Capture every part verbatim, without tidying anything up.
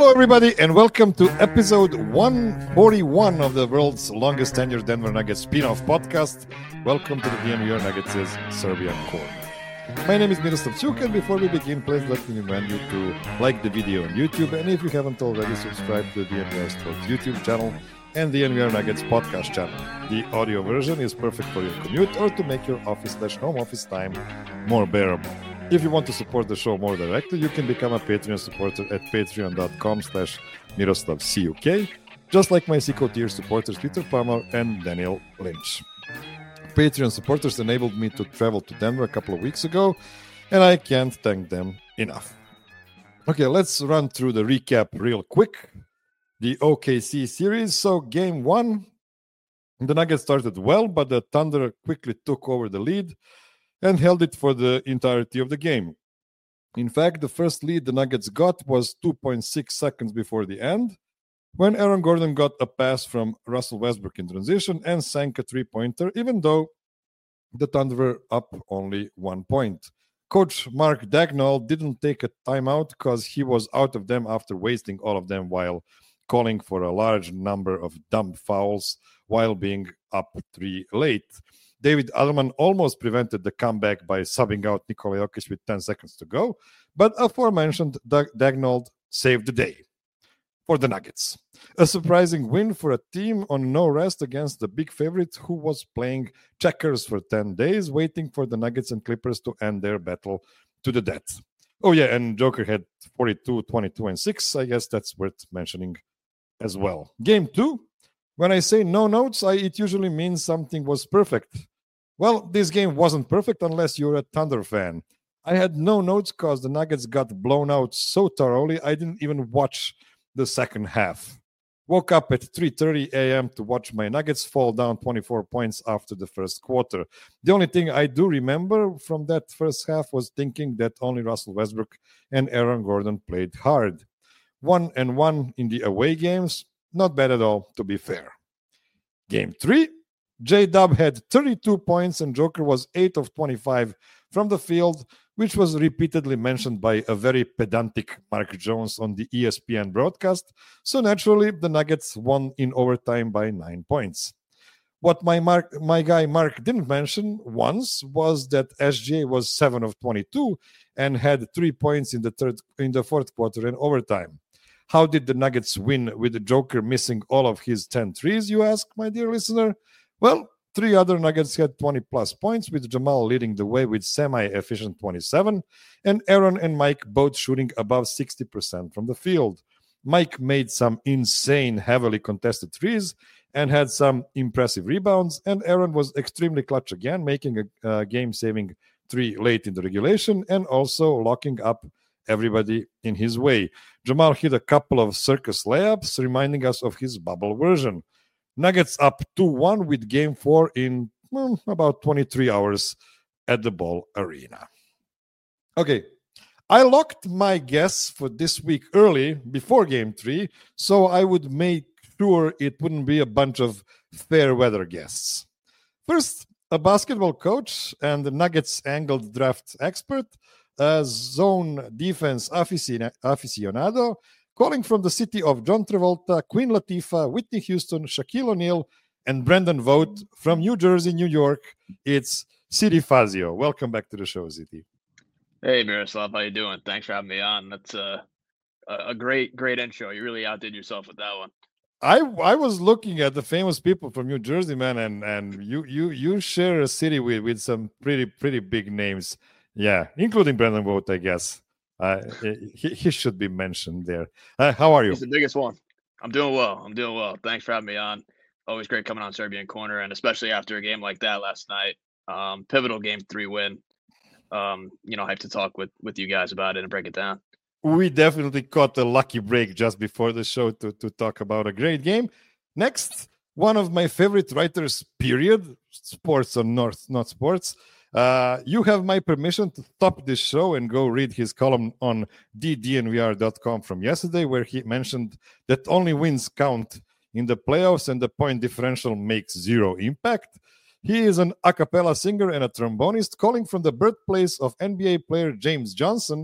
Hello, everybody, and welcome to episode one forty-one of the world's longest tenured Denver Nuggets spin-off podcast. Welcome to the D N V R Nuggets' Serbian Corner. My name is Miroslav Cuk, and before we begin, please let me remind you to like the video on YouTube, and if you haven't already, subscribe to the D N V R Sports YouTube channel and the D N V R Nuggets podcast channel. The audio version is perfect for your commute or to make your office slash home office time more bearable. If you want to support the show more directly, you can become a Patreon supporter at patreon.com slash Miroslav Cuk, just like my Seco tier supporters Peter Palmer and Daniel Lynch. Patreon supporters enabled me to travel to Denver a couple of weeks ago, and I can't thank them enough. Okay, let's run through the recap real quick. The O K C series. So game one, the Nuggets started well, but the Thunder quickly took over the lead and held it for the entirety of the game. In fact, the first lead the Nuggets got was two point six seconds before the end, when Aaron Gordon got a pass from Russell Westbrook in transition and sank a three-pointer, even though the Thunder were up only one point. Coach Mark Dagnall didn't take a timeout because he was out of them after wasting all of them while calling for a large number of dumb fouls while being up three late. David Allman almost prevented the comeback by subbing out Nikola Jokic with ten seconds to go, but aforementioned Dagnall saved the day for the Nuggets. A surprising win for a team on no rest against the big favorite who was playing checkers for ten days, waiting for the Nuggets and Clippers to end their battle to the death. Oh yeah, and Joker had forty-two, twenty-two, and six. I guess that's worth mentioning as well. Game two. When I say no notes, I, it usually means something was perfect. Well, this game wasn't perfect unless you're a Thunder fan. I had no notes because the Nuggets got blown out so thoroughly I didn't even watch the second half. Woke up at three thirty a.m. to watch my Nuggets fall down twenty-four points after the first quarter. The only thing I do remember from that first half was thinking that only Russell Westbrook and Aaron Gordon played hard. One and one in the away games. Not bad at all, to be fair. Game three, J-Dub had thirty-two points and Joker was eight of twenty-five from the field, which was repeatedly mentioned by a very pedantic Mark Jones on the E S P N broadcast, so naturally the Nuggets won in overtime by nine points. What my Mark, my guy Mark didn't mention once was that S J was seven of twenty-two and had three points in the third in the fourth quarter and overtime. How did the Nuggets win with the Joker missing all of his ten threes, you ask, my dear listener? Well, three other Nuggets had twenty-plus points, with Jamal leading the way with semi-efficient twenty-seven, and Aaron and Mike both shooting above sixty percent from the field. Mike made some insane, heavily contested threes and had some impressive rebounds, and Aaron was extremely clutch again, making a, a game-saving three late in the regulation and also locking up everybody in his way. Jamal hit a couple of circus layups, reminding us of his bubble version. Nuggets up two one with game four in well, about twenty-three hours at the Ball Arena. Okay, I locked my guess for this week early before game three, so I would make sure it wouldn't be a bunch of fair weather guests. First, a basketball coach and the Nuggets angled draft expert, a zone defense aficionado, calling from the city of John Travolta, Queen Latifah, Whitney Houston, Shaquille O'Neal, and Brendan Vogt from New Jersey, New York. It's Siti Fazio. Welcome back to the show, Siti. Hey, Miroslav. How you doing? Thanks for having me on. That's a, a great, great intro. You really outdid yourself with that one. I I was looking at the famous people from New Jersey, man, and, and you you you share a city with, with some pretty, pretty big names. Yeah, including Brendan Vogt, I guess. Uh, he, he should be mentioned there. Uh, how are you? He's the biggest one. I'm doing well. I'm doing well. Thanks for having me on. Always great coming on Serbian Corner, and especially after a game like that last night. Um, pivotal game three win. Um, you know, I have to talk with, with you guys about it and break it down. We definitely caught a lucky break just before the show to, to talk about a great game. Next, one of my favorite writers, period, sports or not, not sports. Uh, you have my permission to stop this show and go read his column on d d n v r dot com from yesterday, where he mentioned that only wins count in the playoffs and the point differential makes zero impact. He is an a cappella singer and a trombonist calling from the birthplace of N B A player James Johnson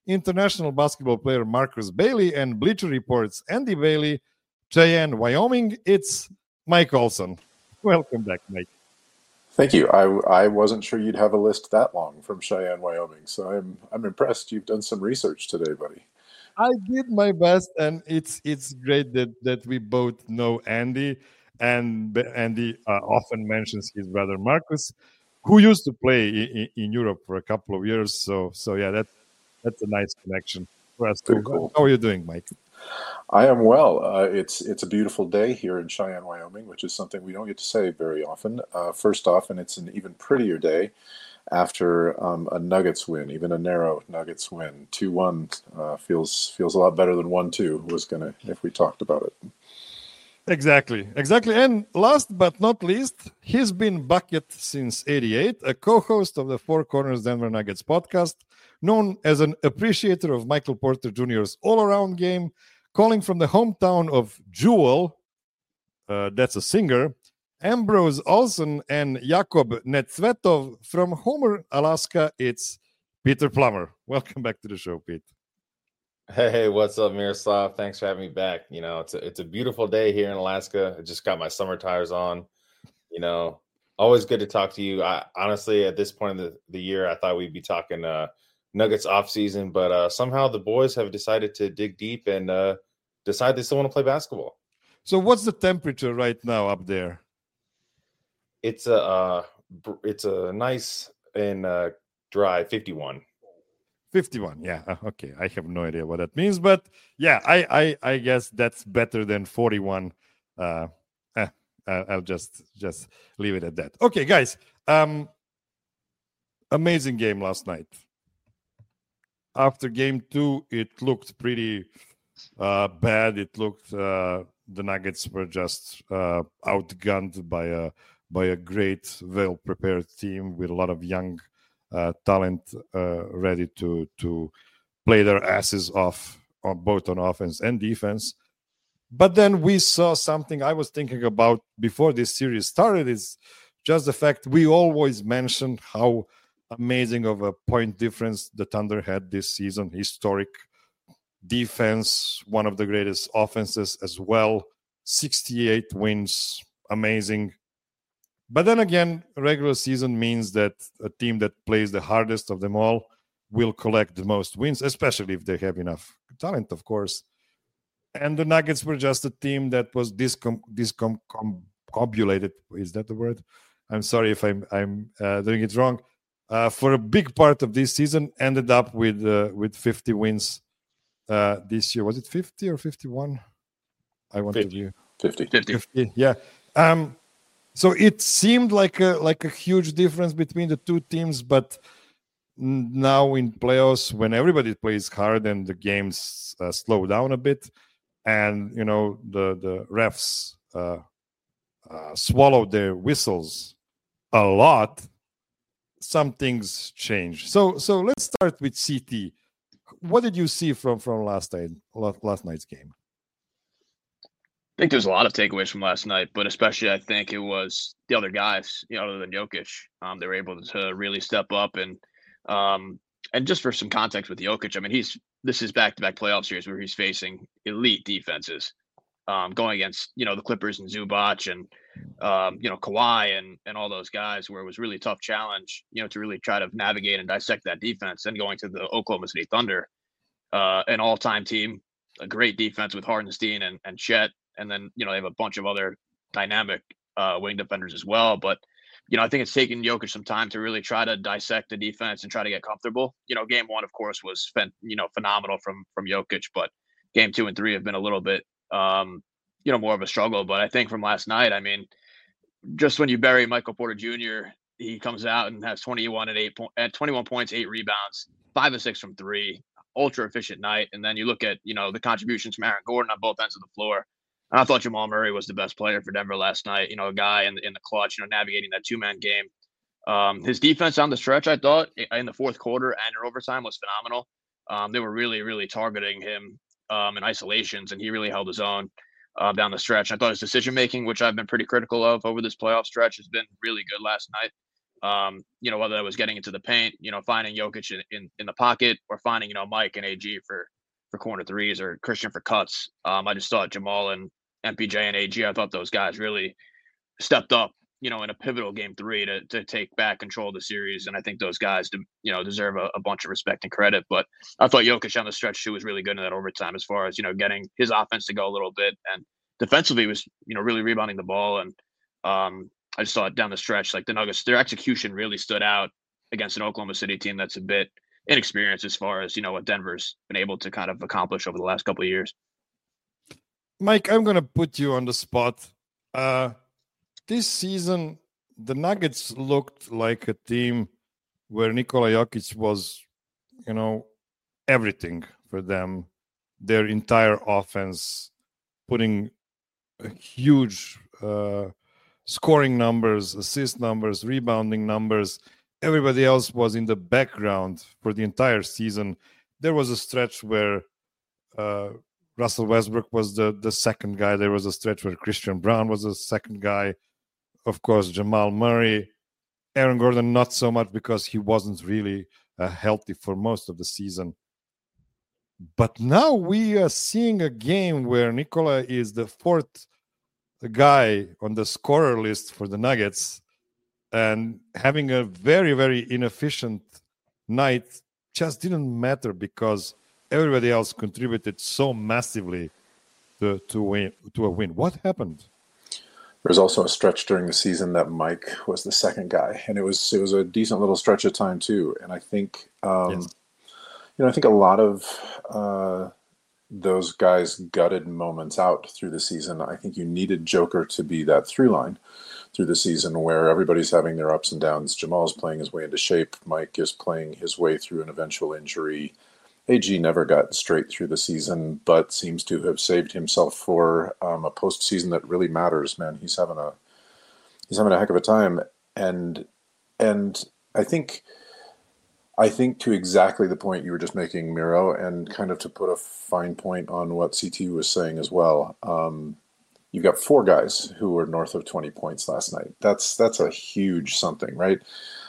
international basketball player Marcus Bailey, and Bleacher Report's Andy Bailey, Cheyenne, Wyoming. It's Mike Olson. Welcome back, Mike. Thank you. I, I wasn't sure you'd have a list that long from Cheyenne, Wyoming, so I'm I'm impressed. You've done some research today, buddy. I did my best, and it's it's great that that we both know Andy, and Andy uh, often mentions his brother Marcus, who used to play in, in Europe for a couple of years. So so yeah, that that's a nice connection for us. Very cool. How are you doing, Mike? I am well. Uh, it's it's a beautiful day here in Cheyenne, Wyoming, which is something we don't get to say very often. Uh, first off, and it's an even prettier day after um, a Nuggets win, even a narrow Nuggets win. two one uh, feels feels a lot better than one two was going to, if we talked about it. Exactly, exactly. And last but not least, he's been Bucket since eighty-eight, a co-host of the Four Corners Denver Nuggets podcast, known as an appreciator of Michael Porter Junior's all-around game, calling from the hometown of Jewel, uh, that's a singer, Ambrose Olson and Jakob Netsvetov from Homer, Alaska. It's Peter Plummer. Welcome back to the show, Pete. Hey, what's up, Miroslav? Thanks for having me back. You know, it's a, it's a beautiful day here in Alaska. I just got my summer tires on. You know, always good to talk to you. I honestly, at this point in the, the year, I thought we'd be talking uh, Nuggets off season, but uh, somehow the boys have decided to dig deep and uh, decide they still want to play basketball. So, what's the temperature right now up there? It's a uh, it's a nice and uh, dry fifty-one. fifty-one, yeah. Okay, I have no idea what that means, but yeah, I I, I guess that's better than forty-one. Uh, eh, I'll just just leave it at that. Okay, guys. Um, amazing game last night. After game two, it looked pretty uh, bad. It looked uh, the Nuggets were just uh, outgunned by a by a great, well-prepared team with a lot of young uh, talent uh, ready to to play their asses off on both on offense and defense. But then we saw something I was thinking about before this series started, is just the fact we always mention how amazing of a point difference the Thunder had this season. Historic defense, one of the greatest offenses as well. sixty-eight wins, amazing. But then again, regular season means that a team that plays the hardest of them all will collect the most wins, especially if they have enough talent, of course. And the Nuggets were just a team that was discom- discombobulated. Is that the word? I'm sorry if I'm I'm uh, doing it wrong. Uh, for a big part of this season, ended up with uh, with fifty wins uh, this year. Was it fifty or fifty-one? I want fifty. to be fifty. fifty. fifty. Yeah. Um, so it seemed like a like a huge difference between the two teams, but now in playoffs, when everybody plays hard and the games uh, slow down a bit, and you know the the refs uh, uh, swallow their whistles a lot, some things change. So so let's start with C T. What did you see from from last night last night's game? I think there's a lot of takeaways from last night, but especially I think it was the other guys, you know, other than Jokic. Um, they were able to really step up and um, and just for some context with Jokic, I mean, he's this is back-to-back playoff series where he's facing elite defenses, um, going against you know the Clippers and Zubac and um, you know Kawhi and and all those guys, where it was really tough challenge, you know, to really try to navigate and dissect that defense. And going to the Oklahoma City Thunder, uh, an all-time team, a great defense with Hardenstein and and Chet. And then, you know, they have a bunch of other dynamic uh, wing defenders as well. But, you know, I think it's taken Jokic some time to really try to dissect the defense and try to get comfortable. You know, game one, of course, was, you know, phenomenal from from Jokic. But game two and three have been a little bit, um, you know, more of a struggle. But I think from last night, I mean, just when you bury Michael Porter Junior, he comes out and has twenty-one and eight po- at twenty-one points, eight rebounds, five of six from three, ultra efficient night. And then you look at, you know, the contributions from Aaron Gordon on both ends of the floor. And I thought Jamal Murray was the best player for Denver last night. You know, a guy in, in the clutch, you know, navigating that two-man game. Um, his defense on the stretch, I thought, in the fourth quarter and in overtime was phenomenal. Um, they were really, really targeting him um, in isolations, and he really held his own uh, down the stretch. I thought his decision-making, which I've been pretty critical of over this playoff stretch, has been really good last night. Um, you know, whether that was getting into the paint, you know, finding Jokic in, in, in the pocket, or finding, you know, Mike and A G for, for corner threes, or Christian for cuts. Um, I just thought Jamal and M P J and A G, I thought those guys really stepped up, you know, in a pivotal game three to, to take back control of the series. And I think those guys, you know, deserve a, a bunch of respect and credit. But I thought Jokic on the stretch too was really good in that overtime, as far as, you know, getting his offense to go a little bit, and defensively he was, you know, really rebounding the ball. And um, I just thought down the stretch, like the Nuggets, their execution really stood out against an Oklahoma City team that's a bit inexperienced as far as, you know, what Denver's been able to kind of accomplish over the last couple of years. Mike, I'm going to put you on the spot. Uh, this season, the Nuggets looked like a team where Nikola Jokic was, you know, everything for them. Their entire offense, putting a huge uh, scoring numbers, assist numbers, rebounding numbers. Everybody else was in the background for the entire season. There was a stretch where uh, Russell Westbrook was the, the second guy. There was a stretch where Christian Brown was the second guy. Of course, Jamal Murray. Aaron Gordon, not so much, because he wasn't really uh, healthy for most of the season. But now we are seeing a game where Nikola is the fourth guy on the scorer list for the Nuggets, and having a very, very inefficient night just didn't matter because everybody else contributed so massively to, to win to a win. What happened? There was also a stretch during the season that Mike was the second guy, and it was it was a decent little stretch of time too. And I think, um, yes. you know, I think a lot of uh, those guys gutted moments out through the season. I think you needed Joker to be that through line through the season where everybody's having their ups and downs. Jamal's playing his way into shape. Mike is playing his way through an eventual injury. A G never got straight through the season, but seems to have saved himself for um, a postseason that really matters. Man, he's having a he's having a heck of a time, and and I think I think to exactly the point you were just making, Miro, and kind of to put a fine point on what C T was saying as well. Um, you've got four guys who were north of twenty points last night. That's that's a huge something, right?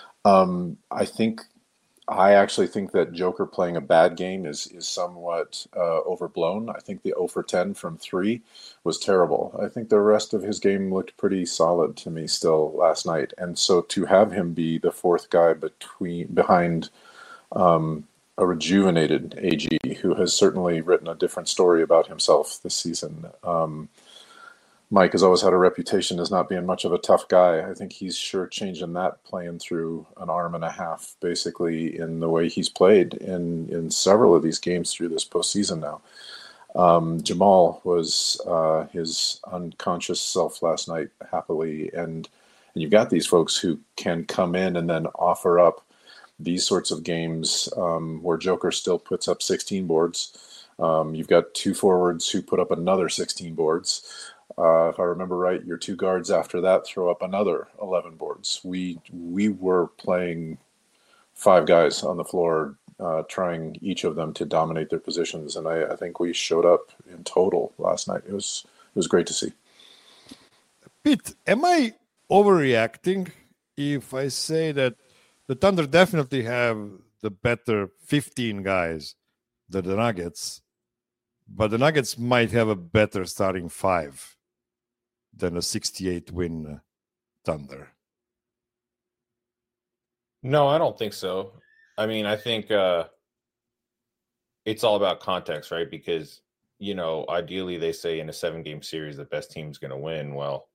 Um, I think. I actually think that Joker playing a bad game is is somewhat uh, overblown. I think the zero for ten from three was terrible. I think the rest of his game looked pretty solid to me still last night. And so to have him be the fourth guy between behind um, a rejuvenated A G, who has certainly written a different story about himself this season. Um, Mike has always had a reputation as not being much of a tough guy. I think he's sure changing that, playing through an arm and a half, basically, in the way he's played in, in several of these games through this postseason now. Um, Jamal was uh, his unconscious self last night, happily, and and you've got these folks who can come in and then offer up these sorts of games um, where Joker still puts up sixteen boards. Um, you've got two forwards who put up another sixteen boards. Uh, if I remember right, your two guards after that throw up another eleven boards. We we were playing five guys on the floor, uh, trying each of them to dominate their positions, and I, I think we showed up in total last night. It was it was great to see. Pete, am I overreacting if I say that the Thunder definitely have the better fifteen guys than the Nuggets, but the Nuggets might have a better starting five than a sixty-eight win Thunder? No, I don't think so. I mean, I think uh, it's all about context, right? Because, you know, ideally they say in a seven-game series the best team's going to win. Well,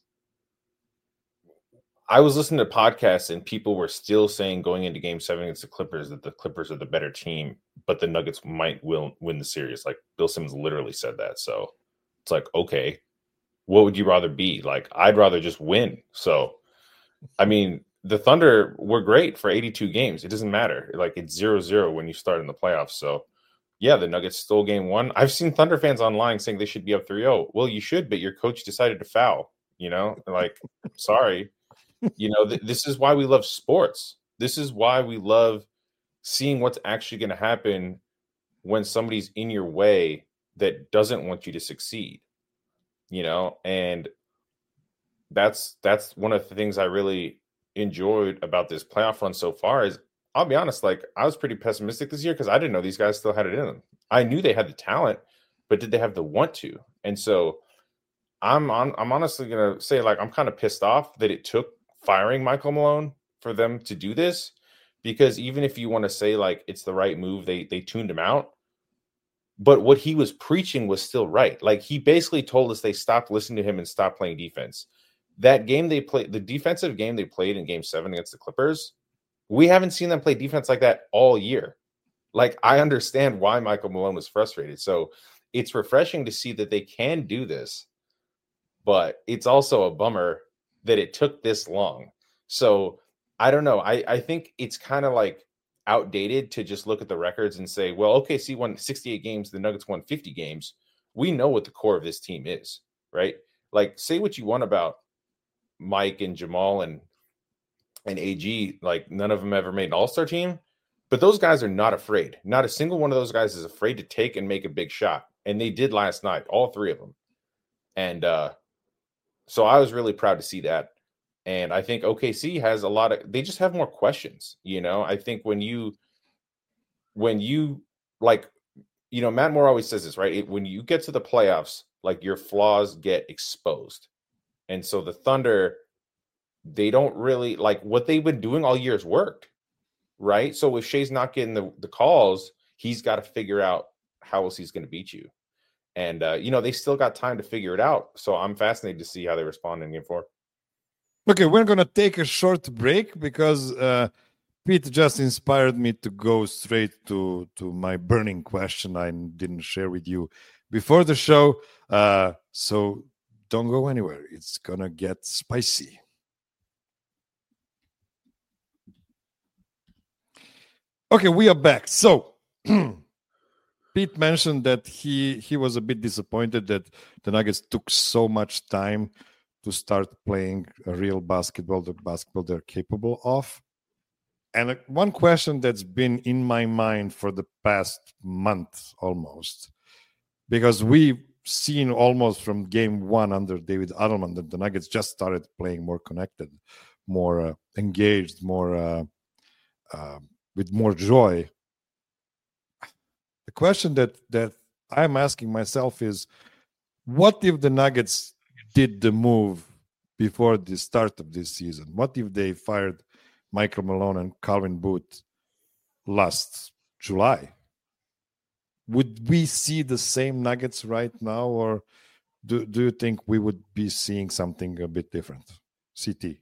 I was listening to podcasts and people were still saying going into game seven against the Clippers that the Clippers are the better team, but the Nuggets might will win the series. Like Bill Simmons literally said that. So it's like, okay, what would you rather be? Like, I'd rather just win. So, I mean, the Thunder were great for eighty-two games. It doesn't matter. Like, it's zero zero when you start in the playoffs. So, yeah, the Nuggets stole game one. I've seen Thunder fans online saying they should be up three oh. Well, you should, but your coach decided to foul, you know? Like, sorry. You know, th- this is why we love sports. This is why we love seeing what's actually going to happen when somebody's in your way that doesn't want you to succeed. You know, and that's that's one of the things I really enjoyed about this playoff run so far is, I'll be honest, like I was pretty pessimistic this year because I didn't know these guys still had it in them. I knew they had the talent, but did they have the want to? And so I'm on, I'm honestly going to say, like, I'm kind of pissed off that it took firing Michael Malone for them to do this, because even if you want to say like it's the right move, they they tuned him out. But what he was preaching was still right. Like, he basically told us they stopped listening to him and stopped playing defense. That game they played, the defensive game they played in game seven against the Clippers, we haven't seen them play defense like that all year. Like, I understand why Michael Malone was frustrated. So it's refreshing to see that they can do this, but it's also a bummer that it took this long. So I don't know. I, I think it's kind of like outdated to just look at the records and say, well, O K C won sixty-eight games, the Nuggets won fifty games. We know what the core of this team is, right? Like, say what you want about Mike and Jamal and and A G, like none of them ever made an all-star team, but those guys are not afraid. Not a single one of those guys is afraid to take and make a big shot. And they did last night, all three of them. And uh, so I was really proud to see that. And I think O K C has a lot of, they just have more questions. You know, I think when you, when you like, you know, Matt Moore always says this, right? It, when you get to the playoffs, like your flaws get exposed. And so the Thunder, they don't really like what they've been doing all year has worked, right? So if Shai's not getting the, the calls, he's got to figure out how else he's going to beat you. And, uh, you know, they still got time to figure it out. So I'm fascinated to see how they respond in game four. Okay, we're going to take a short break because uh, Pete just inspired me to go straight to, to my burning question I didn't share with you before the show. Uh, so don't go anywhere. It's going to get spicy. Okay, we are back. So Pete mentioned that he, he was a bit disappointed that the Nuggets took so much time to start playing a real basketball, the basketball they're capable of. And one question that's been in my mind for the past month almost, because we've seen almost from game one under David Adelman that the Nuggets just started playing more connected, more uh, engaged, more uh, uh, with more joy. The question that, that I'm asking myself is, what if the Nuggets did the move before the start of this season? What if they fired Michael Malone and Calvin Booth last July? Would we see the same Nuggets right now, or do, do you think we would be seeing something a bit different? C T.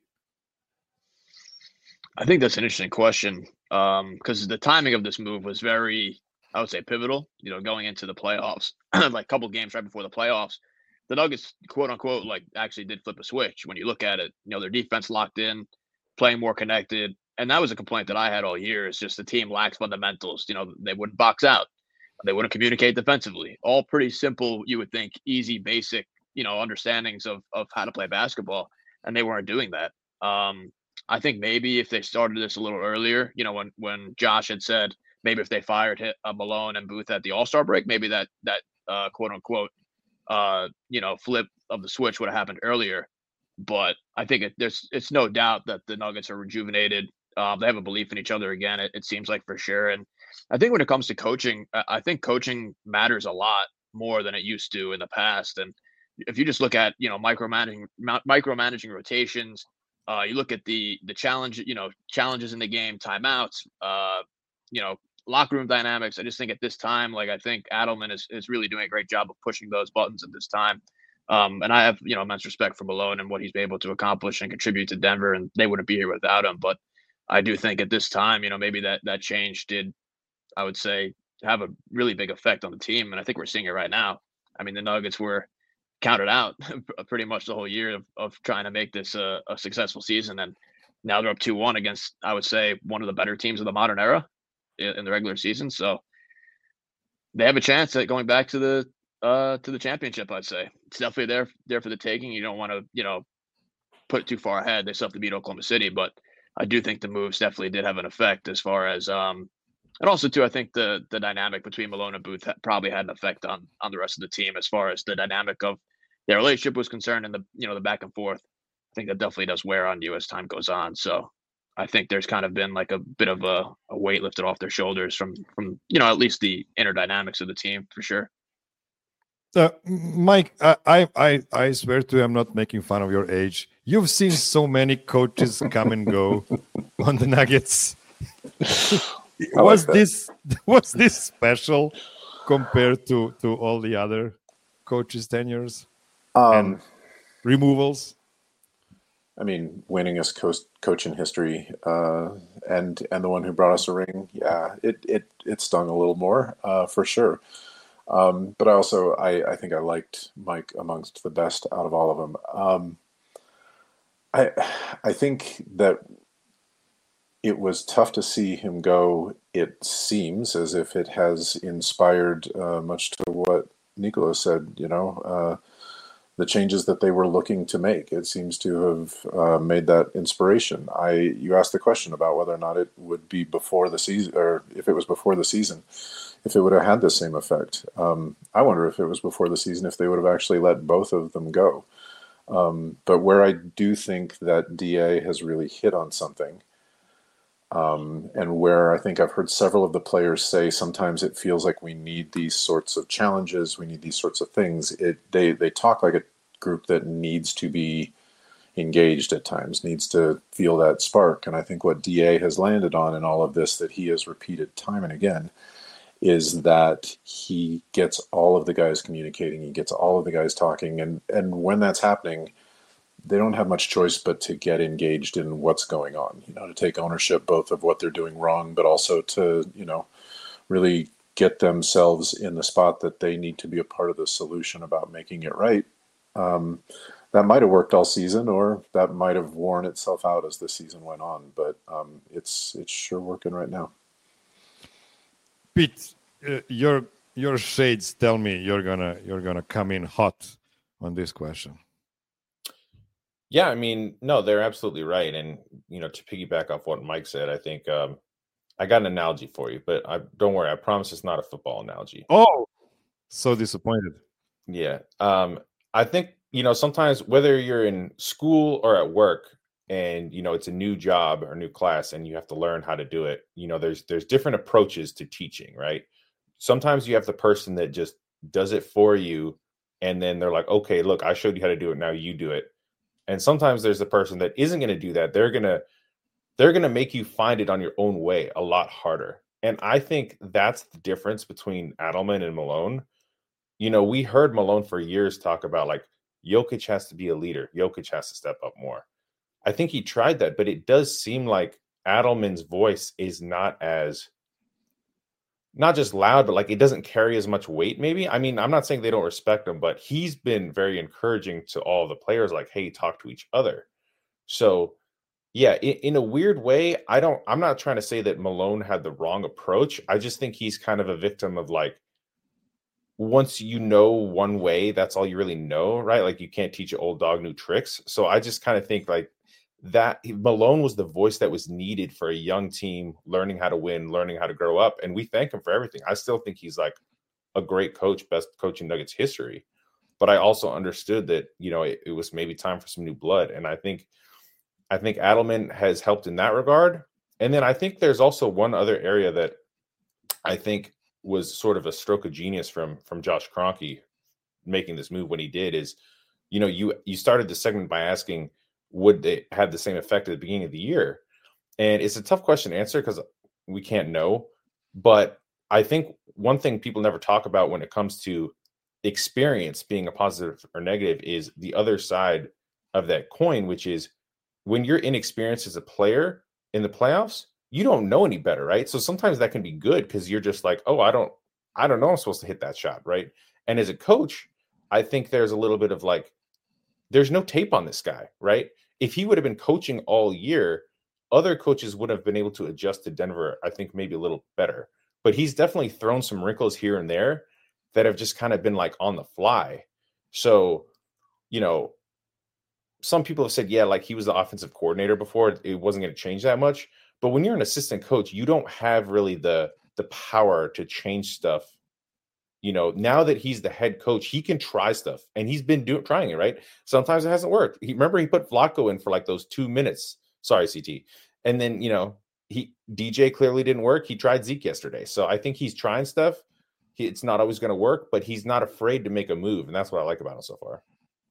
I think that's an interesting question because um, the timing of this move was very, I would say, pivotal, you know, going into the playoffs, like a couple games right before the playoffs. The Nuggets, quote unquote, like actually did flip a switch. When you look at it, you know, their defense locked in, playing more connected. And that was a complaint that I had all year, is just the team lacks fundamentals. You know, they wouldn't box out. They wouldn't communicate defensively. All pretty simple, you would think, easy, basic, you know, understandings of, of how to play basketball. And they weren't doing that. Um, I think maybe if they started this a little earlier, you know, when, when Josh had said, maybe if they fired uh, Malone and Booth at the All-Star break, maybe that, that uh, quote unquote, uh, you know, flip of the switch would have happened earlier. But I think it, there's, it's no doubt that the Nuggets are rejuvenated. Um, they have a belief in each other again, it, it seems like, for sure. And I think when it comes to coaching, I think coaching matters a lot more than it used to in the past. And if you just look at, you know, micromanaging, micromanaging rotations, uh, you look at the, the challenge, you know, challenges in the game, timeouts, uh, you know, locker room dynamics. I just think at this time, like, I think Adelman is, is really doing a great job of pushing those buttons at this time. Um, and I have, you know, immense respect for Malone and what he's been able to accomplish and contribute to Denver, and they wouldn't be here without him. But I do think at this time, you know, maybe that, that change did, I would say, have a really big effect on the team. And I think we're seeing it right now. I mean, the Nuggets were counted out pretty much the whole year of, of trying to make this a, a successful season. And now they're up two one against, I would say, one of the better teams of the modern era in the regular season. So they have a chance at going back to the uh to the championship. I'd say it's definitely there there for the taking. You don't want to, you know, put it too far ahead. They still have to beat Oklahoma City, but I do think the moves definitely did have an effect as far as um and also too, I think the the dynamic between Malone and Booth probably had an effect on on the rest of the team as far as the dynamic of their relationship was concerned, and the, you know, the back and forth. I think that definitely does wear on you as time goes on. So I think there's kind of been like a bit of a, a weight lifted off their shoulders from, from, you know, at least the inner dynamics of the team for sure. Uh, Mike, I, I, I swear to you, I'm not making fun of your age. You've seen so many coaches come and go on the Nuggets. was like this was this special compared to, to all the other coaches' tenures Um, and removals? I mean, winningest coach, coach in history, uh, and and the one who brought us a ring. Yeah, it it it stung a little more, uh, for sure. Um, but I also I, I think I liked Mike amongst the best out of all of them. Um, I I think that it was tough to see him go. It seems as if it has inspired, uh, much to what Nicolas said. You know. Uh, the changes that they were looking to make. It seems to have uh, made that inspiration. I you asked the question about whether or not it would be before the season, or if it was before the season, if it would have had the same effect. Um, I wonder if it was before the season, if they would have actually let both of them go. Um, but where I do think that D A has really hit on something, um, and where I think I've heard several of the players say sometimes it feels like we need these sorts of challenges, we need these sorts of things. It they they talk like a group that needs to be engaged at times, needs to feel that spark. And I think what D A has landed on in all of this, that he has repeated time and again, is that he gets all of the guys communicating, he gets all of the guys talking, and and when that's happening, they don't have much choice but to get engaged in what's going on, you know, to take ownership both of what they're doing wrong, but also to, you know, really get themselves in the spot that they need to be a part of the solution about making it right. Um, that might have worked all season, or that might have worn itself out as the season went on, but um, it's it's sure working right now. Pete, uh, your your shades tell me you're gonna you're gonna come in hot on this question. Yeah, I mean, no, they're absolutely right. And, you know, to piggyback off what Mike said, I think um, I got an analogy for you, but I don't worry. I promise it's not a football analogy. Oh, so disappointed. Yeah. Um, I think, you know, sometimes whether you're in school or at work and, you know, it's a new job or new class and you have to learn how to do it, you know, there's there's different approaches to teaching, right? Sometimes you have the person that just does it for you. And then they're like, okay, look, I showed you how to do it. Now you do it. And sometimes there's the person that isn't going to do that. They're going to they're going to make you find it on your own way a lot harder. And I think that's the difference between Adelman and Malone. You know, we heard Malone for years talk about like Jokic has to be a leader. Jokic has to step up more. I think he tried that, but it does seem like Adelman's voice is not as not just loud, but like it doesn't carry as much weight, maybe. I mean, I'm not saying they don't respect him, but he's been very encouraging to all the players, like, hey, talk to each other. So, yeah, in, in a weird way, I don't, I'm not trying to say that Malone had the wrong approach. I just think he's kind of a victim of like, once you know one way, that's all you really know, right? Like you can't teach an old dog new tricks. So I just kind of think like, that Malone was the voice that was needed for a young team learning how to win, learning how to grow up. And we thank him for everything. I still think he's like a great coach, best coach in Nuggets history. But I also understood that, you know, it, it was maybe time for some new blood. And I think, I think Adelman has helped in that regard. And then I think there's also one other area that I think was sort of a stroke of genius from, from Josh Kroenke making this move when he did is, you know, you, you started the segment by asking, would they have the same effect at the beginning of the year? And it's a tough question to answer because we can't know. But I think one thing people never talk about when it comes to experience being a positive or negative is the other side of that coin, which is when you're inexperienced as a player in the playoffs, you don't know any better, right? So sometimes that can be good because you're just like, oh, I don't, I don't know I'm supposed to hit that shot, right? And as a coach, I think there's a little bit of like, there's no tape on this guy, right? If he would have been coaching all year, other coaches would have been able to adjust to Denver, I think maybe a little better. But he's definitely thrown some wrinkles here and there that have just kind of been like on the fly. So, you know, some people have said, yeah, like he was the offensive coordinator before. It wasn't going to change that much. But when you're an assistant coach, you don't have really the the power to change stuff you know, now that he's the head coach, he can try stuff, and he's been doing trying it, right? Sometimes it hasn't worked. He remember he put Flacco in for like those two minutes. Sorry, C T. And then, you know, he D J clearly didn't work. He tried Zeke yesterday. So I think he's trying stuff. He, it's not always going to work, but he's not afraid to make a move, and that's what I like about him so far.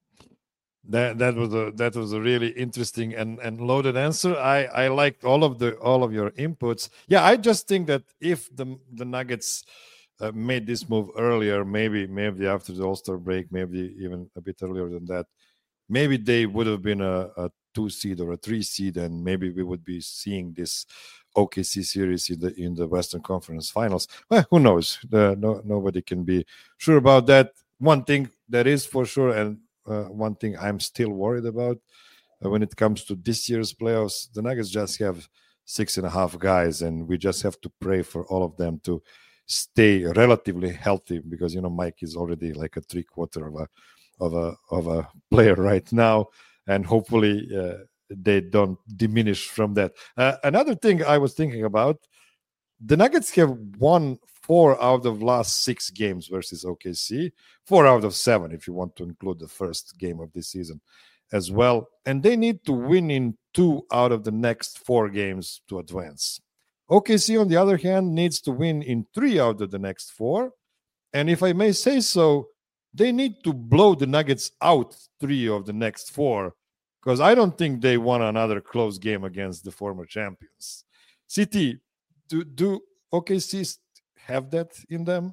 That that was a that was a really interesting and, and loaded answer. I, I liked all of the all of your inputs. Yeah, I just think that if the the Nuggets uh, made this move earlier, maybe maybe after the All-Star break, maybe even a bit earlier than that, maybe they would have been a, a two seed or a three seed, and maybe we would be seeing this O K C series in the in the Western Conference Finals. Well, who knows? Uh, no, nobody can be sure about that. One thing that is for sure, and uh, one thing I'm still worried about uh, when it comes to this year's playoffs, the Nuggets just have six and a half guys, and we just have to pray for all of them to stay relatively healthy, because you know Mike is already like a three quarter of a of a of a player right now, and hopefully uh, they don't diminish from that. Uh, another thing I was thinking about, the Nuggets have won four out of last six games versus O K C, four out of seven if you want to include the first game of this season as well, and they need to win in two out of the next four games to advance. O K C, on the other hand, needs to win in three out of the next four, and if I may say so, they need to blow the Nuggets out three of the next four, because I don't think they won another close game against the former champions. C T, do, do O K C have that in them?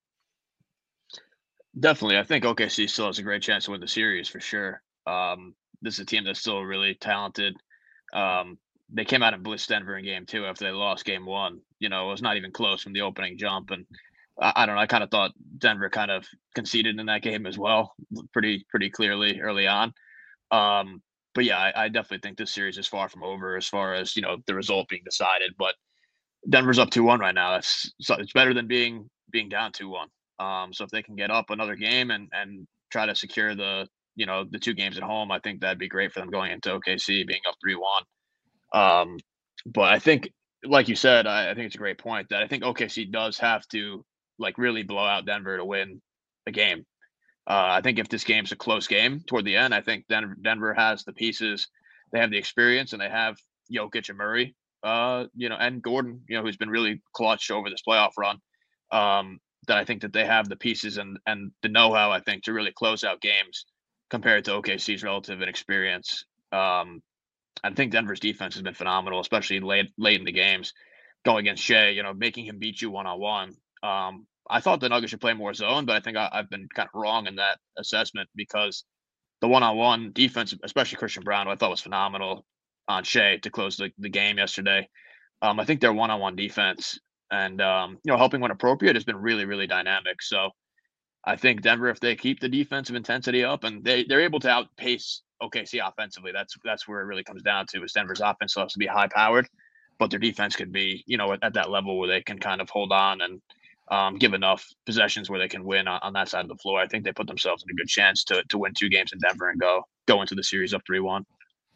Definitely. I think O K C still has a great chance to win the series for sure. Um, this is a team that's still really talented. Um, they came out and blitzed Denver in game two after they lost game one. You know, it was not even close from the opening jump. And I, I don't know, I kind of thought Denver kind of conceded in that game as well, pretty, pretty clearly early on. Um, but yeah, I, I definitely think this series is far from over as far as, you know, the result being decided. But Denver's up two one right now. That's so it's better than being being down two one. Um, so if they can get up another game and and try to secure the you know the two games at home, I think that'd be great for them going into O K C being up three one. Um, but I think, like you said, I, I think it's a great point that I think O K C does have to like really blow out Denver to win the game. Uh, I think if this game's a close game toward the end, I think Denver Denver has the pieces, they have the experience, and they have Jokic and Murray. Uh, you know, and Gordon, you know, who's been really clutch over this playoff run. Um, that I think that they have the pieces and and the know-how, I think, to really close out games compared to O K C's relative inexperience. Um, I think Denver's defense has been phenomenal, especially late late in the games, going against Shea. You know, making him beat you one on one. Um, I thought the Nuggets should play more zone, but I think I, I've been kind of wrong in that assessment, because the one on one defense, especially Christian Brown, who I thought was phenomenal on Shea to close the, the game yesterday. Um, I think their one-on-one defense and, um, you know, helping when appropriate has been really, really dynamic. So I think Denver, if they keep the defensive intensity up and they, they're able to outpace O K C offensively, that's that's where it really comes down to, is Denver's offense has to be high-powered, but their defense could be, you know, at, at that level where they can kind of hold on and um, give enough possessions where they can win on, on that side of the floor. I think they put themselves in a good chance to to win two games in Denver and go go into the series up three one.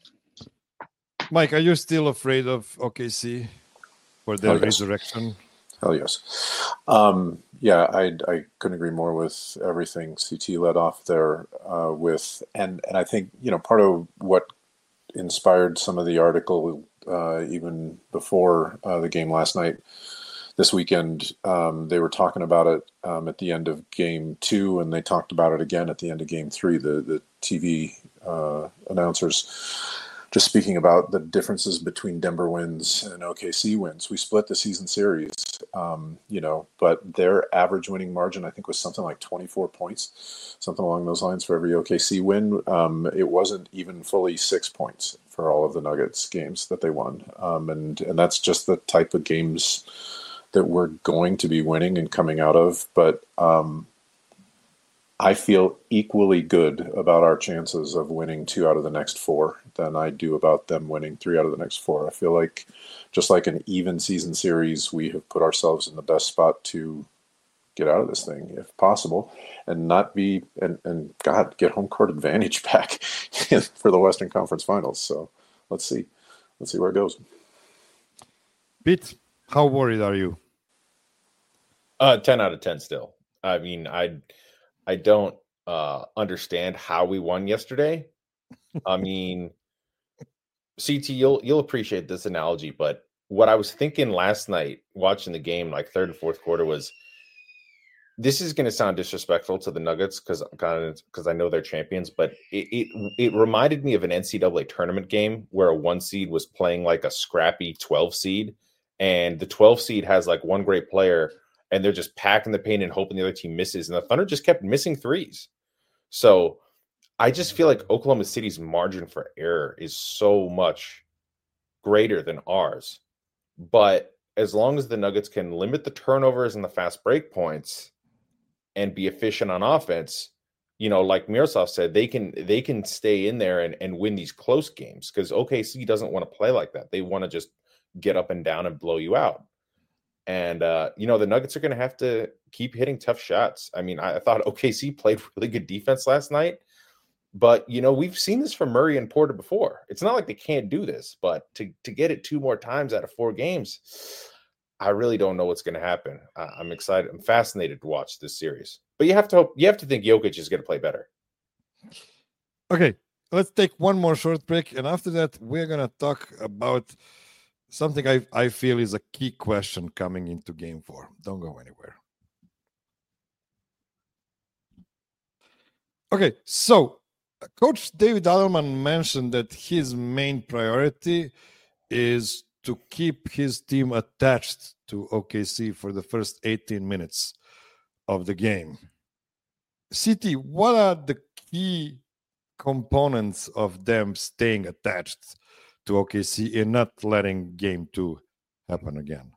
Mike, are you still afraid of O K C for their oh, yes. resurrection? Hell yes. Um, yeah, I I couldn't agree more with everything C T led off there uh, with, and and I think you know part of what inspired some of the article uh, even before uh, the game last night. This weekend, um, they were talking about it um, at the end of game two, and they talked about it again at the end of game three. The the T V uh, announcers just speaking about the differences between Denver wins and O K C wins. We split the season series, um, you know, but their average winning margin, I think, was something like twenty-four points, something along those lines for every O K C win. Um, it wasn't even fully six points for all of the Nuggets games that they won. Um, and, and that's just the type of games that we're going to be winning and coming out of. But um, I feel equally good about our chances of winning two out of the next four than I do about them winning three out of the next four. I feel like just like an even season series, we have put ourselves in the best spot to get out of this thing if possible and not be, and, and God, get home court advantage back for the Western Conference Finals. So let's see. Let's see where it goes. Pete, how worried are you? Uh, ten out of ten still. I mean, I I don't uh, understand how we won yesterday. I mean, C T, you'll you'll appreciate this analogy, but what I was thinking last night watching the game, like third and fourth quarter, was this is going to sound disrespectful to the Nuggets because because I know they're champions, but it, it it reminded me of an N C double A tournament game where a one seed was playing like a scrappy twelve seed, and the twelve seed has like one great player, and they're just packing the paint and hoping the other team misses, and the Thunder just kept missing threes. So I just feel like Oklahoma City's margin for error is so much greater than ours. But as long as the Nuggets can limit the turnovers and the fast break points and be efficient on offense, you know, like Miroslav said, they can they can stay in there and, and win these close games because O K C doesn't want to play like that. They want to just get up and down and blow you out. And, uh, you know, the Nuggets are going to have to keep hitting tough shots. I mean, I, I thought O K C played really good defense last night. But, you know, we've seen this from Murray and Porter before. It's not like they can't do this, but to, to get it two more times out of four games, I really don't know what's going to happen. Uh, I'm excited. I'm fascinated to watch this series. But you have to hope, you have to think Jokic is going to play better. Okay, let's take one more short break. And after that, we're going to talk about something I, I feel is a key question coming into game four. Don't go anywhere. Okay, so Coach David Alderman mentioned that his main priority is to keep his team attached to O K C for the first eighteen minutes of the game. C T, what are the key components of them staying attached to O K C and not letting game two happen again?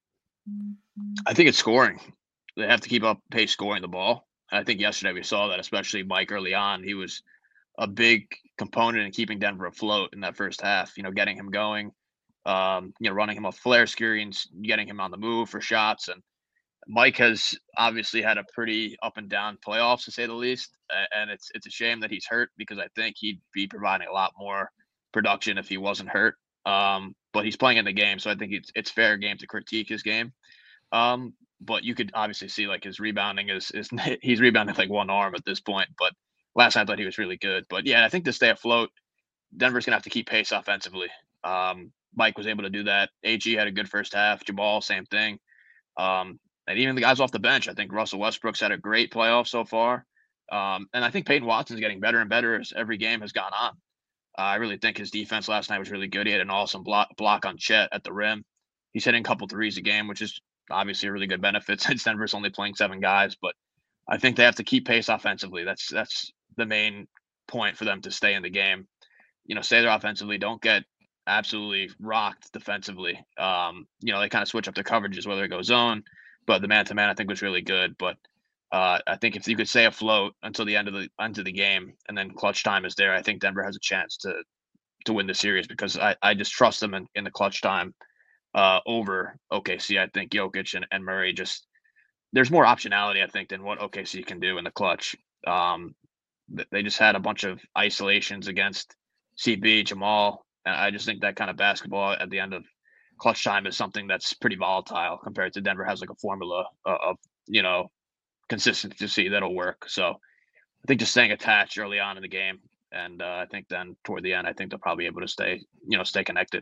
I think it's scoring. They have to keep up pace scoring the ball. I think yesterday we saw that, especially Mike early on. He was a big component in keeping Denver afloat in that first half, you know, getting him going, um, you know, running him off flare screens, getting him on the move for shots. And Mike has obviously had a pretty up and down playoffs, to say the least. And it's it's a shame that he's hurt because I think he'd be providing a lot more production if he wasn't hurt. Um, but he's playing in the game, so I think it's it's fair game to critique his game. Um, but you could obviously see like his rebounding is is he's rebounding like one arm at this point. But last night I thought he was really good. But yeah, I think to stay afloat, Denver's gonna have to keep pace offensively. Um, Mike was able to do that. A G had a good first half. Jamal, same thing. Um, and even the guys off the bench, I think Russell Westbrook's had a great playoff so far. Um, and I think Peyton Watson's getting better and better as every game has gone on. Uh, I really think his defense last night was really good. He had an awesome block block on Chet at the rim. He's hitting a couple threes a game, which is obviously a really good benefit since Denver's only playing seven guys. But I think they have to keep pace offensively. That's that's the main point for them to stay in the game. You know, stay there offensively. Don't get absolutely rocked defensively. Um, you know, they kind of switch up the coverages, whether it goes zone. But the man-to-man, I think, was really good. But uh, I think if you could stay afloat until the end of the end of the game, and then clutch time is there, I think Denver has a chance to to win the series because I, I just trust them in, in the clutch time uh, over O K C. I think Jokic and, and Murray just there's more optionality, I think, than what O K C can do in the clutch. Um, they just had a bunch of isolations against C B, Jamal, and I just think that kind of basketball at the end of clutch time is something that's pretty volatile compared to Denver has like a formula of, you know, consistency that'll work. So I think just staying attached early on in the game. And uh, I think then toward the end, I think they'll probably be able to stay, you know, stay connected.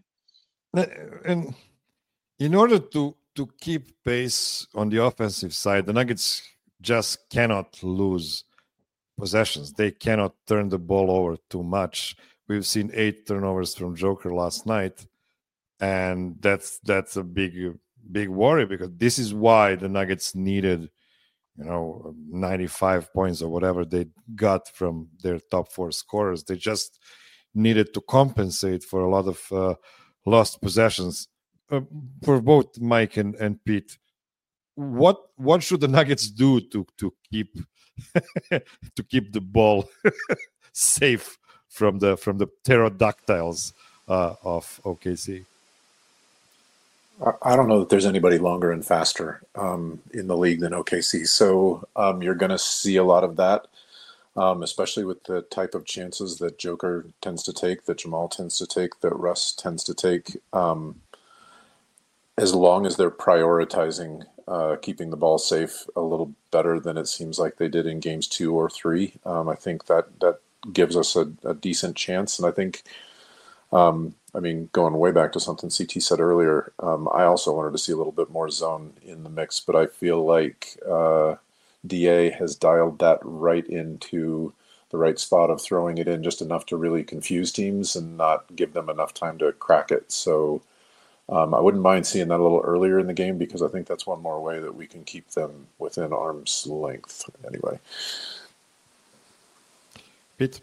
And in order to, to keep pace on the offensive side, the Nuggets just cannot lose possessions. They cannot turn the ball over too much. We've seen eight turnovers from Joker last night. And that's that's a big, big worry because this is why the Nuggets needed, you know, ninety-five points or whatever they got from their top four scorers. They just needed to compensate for a lot of uh, lost possessions uh, for both Mike and, and Pete. What what should the Nuggets do to to keep to keep the ball safe from the from the pterodactyls uh, of O K C? I don't know that there's anybody longer and faster um, in the league than O K C. So um, you're going to see a lot of that, um, especially with the type of chances that Joker tends to take, that Jamal tends to take, that Russ tends to take. Um, as long as they're prioritizing uh, keeping the ball safe a little better than it seems like they did in games two or three. Um, I think that that gives us a, a decent chance. And I think, um, I mean, going way back to something C T said earlier, um, I also wanted to see a little bit more zone in the mix, but I feel like uh, D A has dialed that right into the right spot of throwing it in just enough to really confuse teams and not give them enough time to crack it. So um, I wouldn't mind seeing that a little earlier in the game, because I think that's one more way that we can keep them within arm's length anyway. Pete?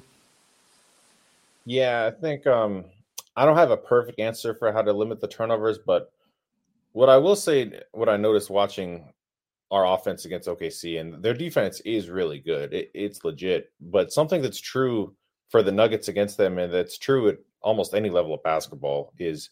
Yeah, I think um, I don't have a perfect answer for how to limit the turnovers, but what I will say, what I noticed watching our offense against O K C, and their defense is really good. It, it's legit. But something that's true for the Nuggets against them, and that's true at almost any level of basketball, is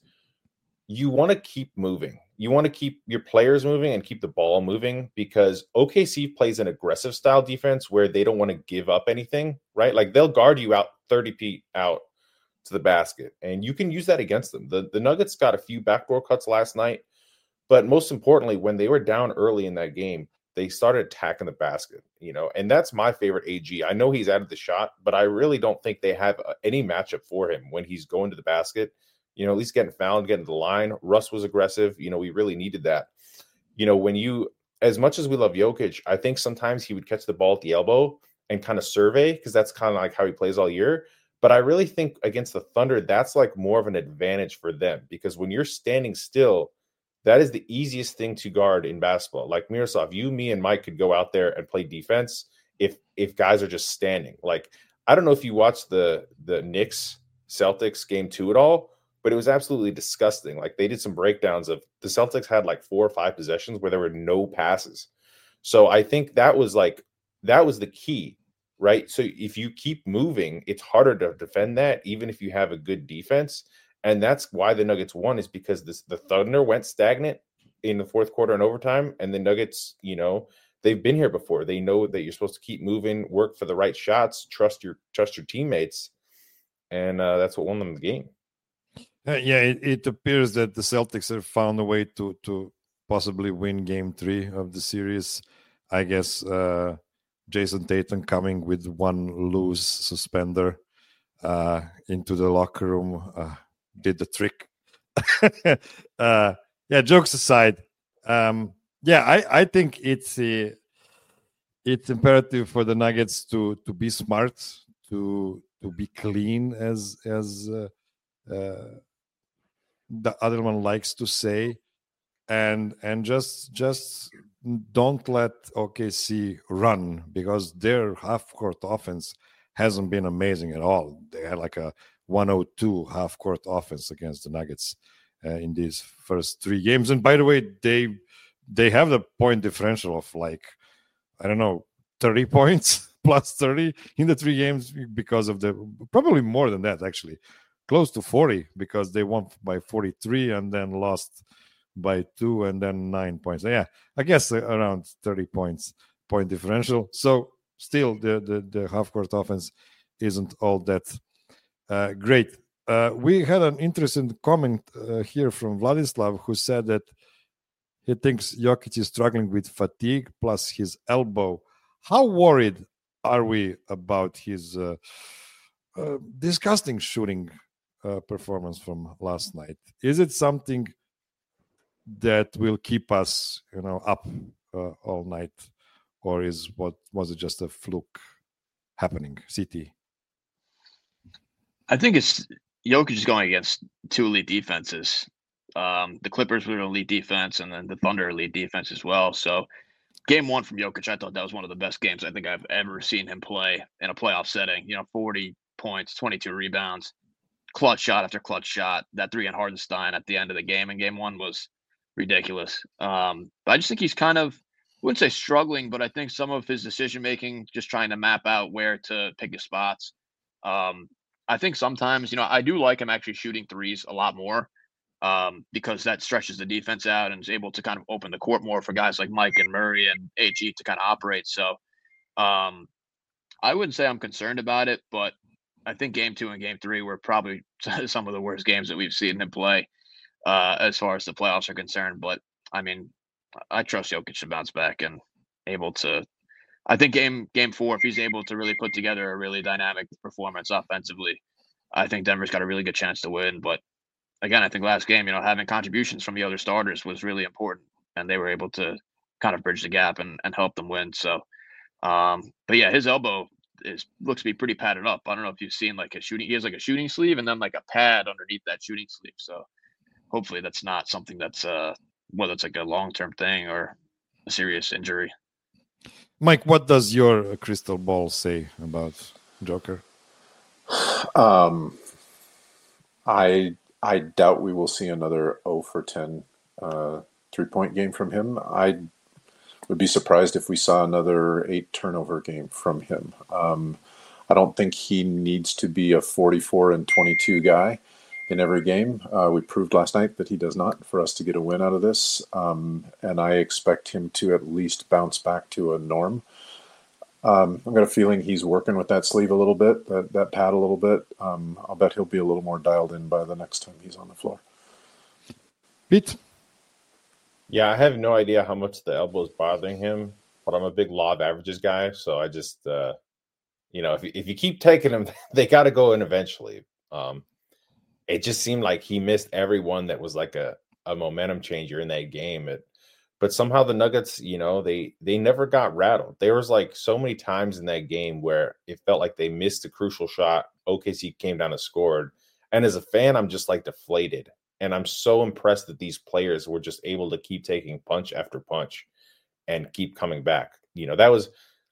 you want to keep moving. You want to keep your players moving and keep the ball moving, because O K C plays an aggressive style defense where they don't want to give up anything, right? Like they'll guard you out thirty feet out to the basket, and you can use that against them. The, the Nuggets got a few backdoor cuts last night, but most importantly, when they were down early in that game, they started attacking the basket, you know, and that's my favorite A G. I know he's added the shot, but I really don't think they have any matchup for him when he's going to the basket, you know, at least getting fouled, getting to the line. Russ was aggressive. You know, we really needed that. You know, when you, as much as we love Jokic, I think sometimes he would catch the ball at the elbow and kind of survey, because that's kind of like how he plays all year. But I really think against the Thunder, that's like more of an advantage for them, because when you're standing still, that is the easiest thing to guard in basketball. Like Miroslav, you, me, and Mike could go out there and play defense if if guys are just standing. Like, I don't know if you watched the the Knicks Celtics game two at all, but it was absolutely disgusting. Like, they did some breakdowns of the Celtics had like four or five possessions where there were no passes. So I think that was like that was the key, right? So if you keep moving, it's harder to defend that, even if you have a good defense. And that's why the Nuggets won, is because this, the Thunder went stagnant in the fourth quarter and overtime. And the Nuggets, you know, they've been here before. They know that you're supposed to keep moving, work for the right shots, trust your trust your teammates. And uh, that's what won them the game. Uh, yeah, it, it appears that the Celtics have found a way to to possibly win game three of the series. I guess uh, Jason Tatum coming with one loose suspender uh, into the locker room uh, did the trick. uh, yeah, jokes aside, um, yeah, I, I think it's uh, it's imperative for the Nuggets to to be smart, to to be clean, as as uh, uh, the other one likes to say, and and just just don't let O K C run, because their half court offense hasn't been amazing at all. They had like a one oh two half court offense against the Nuggets uh, in these first three games. And by the way, they they have the point differential of like, I don't know, thirty points plus thirty in the three games, because of the, probably more than that actually, close to forty, because they won by forty-three and then lost by two and then nine points. Yeah, I guess around thirty points point differential. So still the the, the half court offense isn't all that uh, great. Uh, we had an interesting comment uh, here from Vladislav, who said that he thinks Jokic is struggling with fatigue plus his elbow. How worried are we about his uh, uh, disgusting shooting uh, performance from last night? Is it something that will keep us, you know, up uh, all night, or is what was it just a fluke happening? C T. I think it's Jokic is going against two elite defenses. Um, the Clippers were an elite defense, and then the Thunder elite defense as well. So, game one from Jokic, I thought that was one of the best games I think I've ever seen him play in a playoff setting. You know, forty points, twenty-two rebounds, clutch shot after clutch shot. That three on Hardenstein at the end of the game in game one was ridiculous. Um, but I just think he's kind of, I wouldn't say struggling, but I think some of his decision making, just trying to map out where to pick his spots. Um, I think sometimes, you know, I do like him actually shooting threes a lot more, um, because that stretches the defense out and is able to kind of open the court more for guys like Mike and Murray and A G to kind of operate. So um, I wouldn't say I'm concerned about it, but I think game two and game three were probably some of the worst games that we've seen him play uh, as far as the playoffs are concerned. But I mean, I trust Jokic to bounce back and able to. I think game game four, if he's able to really put together a really dynamic performance offensively, I think Denver's got a really good chance to win. But again, I think last game, you know, having contributions from the other starters was really important, and they were able to kind of bridge the gap and, and help them win. So, um, but yeah, his elbow is looks to be pretty padded up. I don't know if you've seen like a shooting. He has like a shooting sleeve and then like a pad underneath that shooting sleeve. So hopefully that's not something that's uh whether it's like a long term thing or a serious injury. Mike, what does your crystal ball say about Joker? Um, I I doubt we will see another zero for ten uh, three-point game from him. I would be surprised if we saw another eight turnover game from him. Um, I don't think he needs to be a forty-four and twenty-two guy in every game. Uh, we proved last night that he does not for us to get a win out of this. Um, and I expect him to at least bounce back to a norm. Um, I've got a feeling he's working with that sleeve a little bit, that, that pad a little bit. Um, I'll bet he'll be a little more dialed in by the next time he's on the floor. Pete? Yeah, I have no idea how much the elbow is bothering him, but I'm a big law of averages guy. So I just, uh, you know, if, if you keep taking him, they got to go in eventually. Um, it just seemed like he missed every one that was like a, a momentum changer in that game. It, but somehow the Nuggets, you know, they they never got rattled. There was like so many times in that game where it felt like they missed a crucial shot. O K C came down and scored. And as a fan, I'm just like deflated. And I'm so impressed that these players were just able to keep taking punch after punch and keep coming back. You know, that was,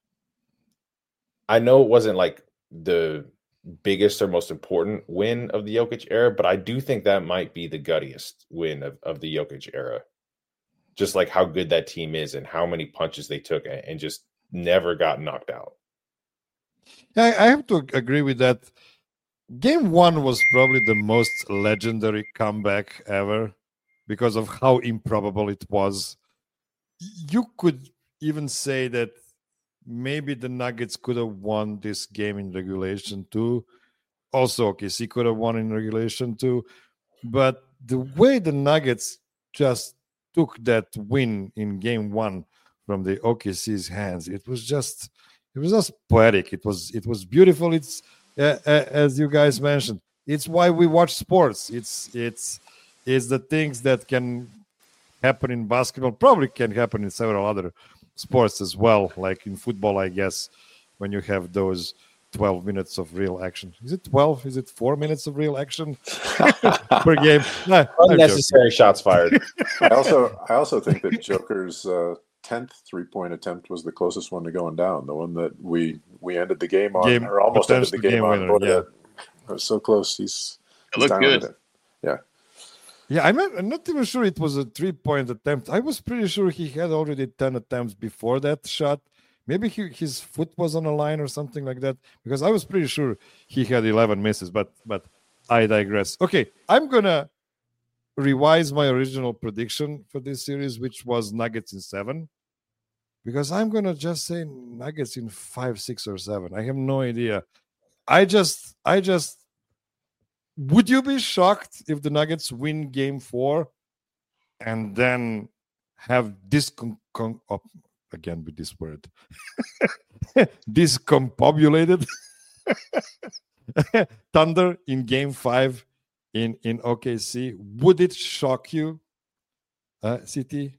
I know it wasn't like the biggest or most important win of the Jokic era, but I do think that might be the guttiest win of, of the Jokic era. Just like how good that team is and how many punches they took and just never got knocked out. Yeah, I have to agree with that. Game one was probably the most legendary comeback ever because of how improbable it was. You could even say that maybe the Nuggets could have won this game in regulation too. Also, O K C could have won in regulation too. But the way the Nuggets just took that win in game one from the O K C's hands, it was just, it was just poetic. It was, it was beautiful. It's uh, uh, as you guys mentioned, it's why we watch sports. It's, it's, it's the things that can happen in basketball, probably can happen in several other sports as well, like in football, I guess, when you have those twelve minutes of real action. Is it twelve? Is it four minutes of real action per game? Nah, unnecessary shots fired. I also I also think that Joker's uh, tenth three-point attempt was the closest one to going down. The one that we we ended the game on, game, or almost ended the game, game on. Winner, yeah. It was so close. He's, it he's looked good. It. Yeah. Yeah, I'm not, I'm not even sure it was a three-point attempt. I was pretty sure he had already ten attempts before that shot. Maybe he, his foot was on a line or something like that, because I was pretty sure he had eleven misses, but but I digress. Okay, I'm going to revise my original prediction for this series, which was Nuggets in seven, because I'm going to just say Nuggets in five, six, or seven. I have no idea. I just, I just, would you be shocked if the Nuggets win game four and then have this con- con- oh, again with this word discombobulated Thunder in game five in, in O K C? Would it shock you, uh, C T?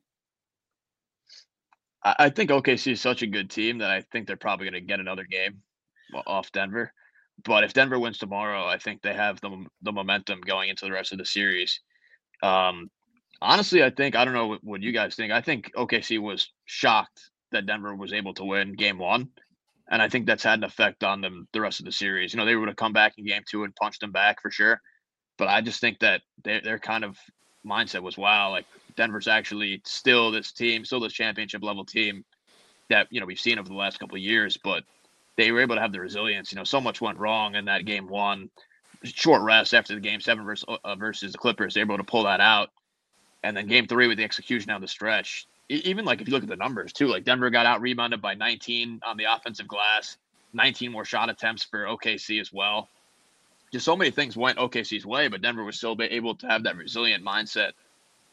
I think O K C is such a good team that I think they're probably going to get another game off Denver. But if Denver wins tomorrow, I think they have the the momentum going into the rest of the series. Um, honestly, I think, I don't know what, what you guys think. I think O K C was shocked that Denver was able to win game one. And I think that's had an effect on them the rest of the series. You know, they would have come back in game two and punched them back for sure. But I just think that they, their kind of mindset was, wow, like Denver's actually still this team, still this championship level team that, you know, we've seen over the last couple of years. But they were able to have the resilience. You know, so much went wrong in that game one. Short rest after the game seven versus, uh, versus the Clippers. They were able to pull that out. And then game three with the execution down the stretch. Even like if you look at the numbers too, like Denver got out rebounded by nineteen on the offensive glass, nineteen more shot attempts for O K C as well. Just so many things went O K C's way, but Denver was still able to have that resilient mindset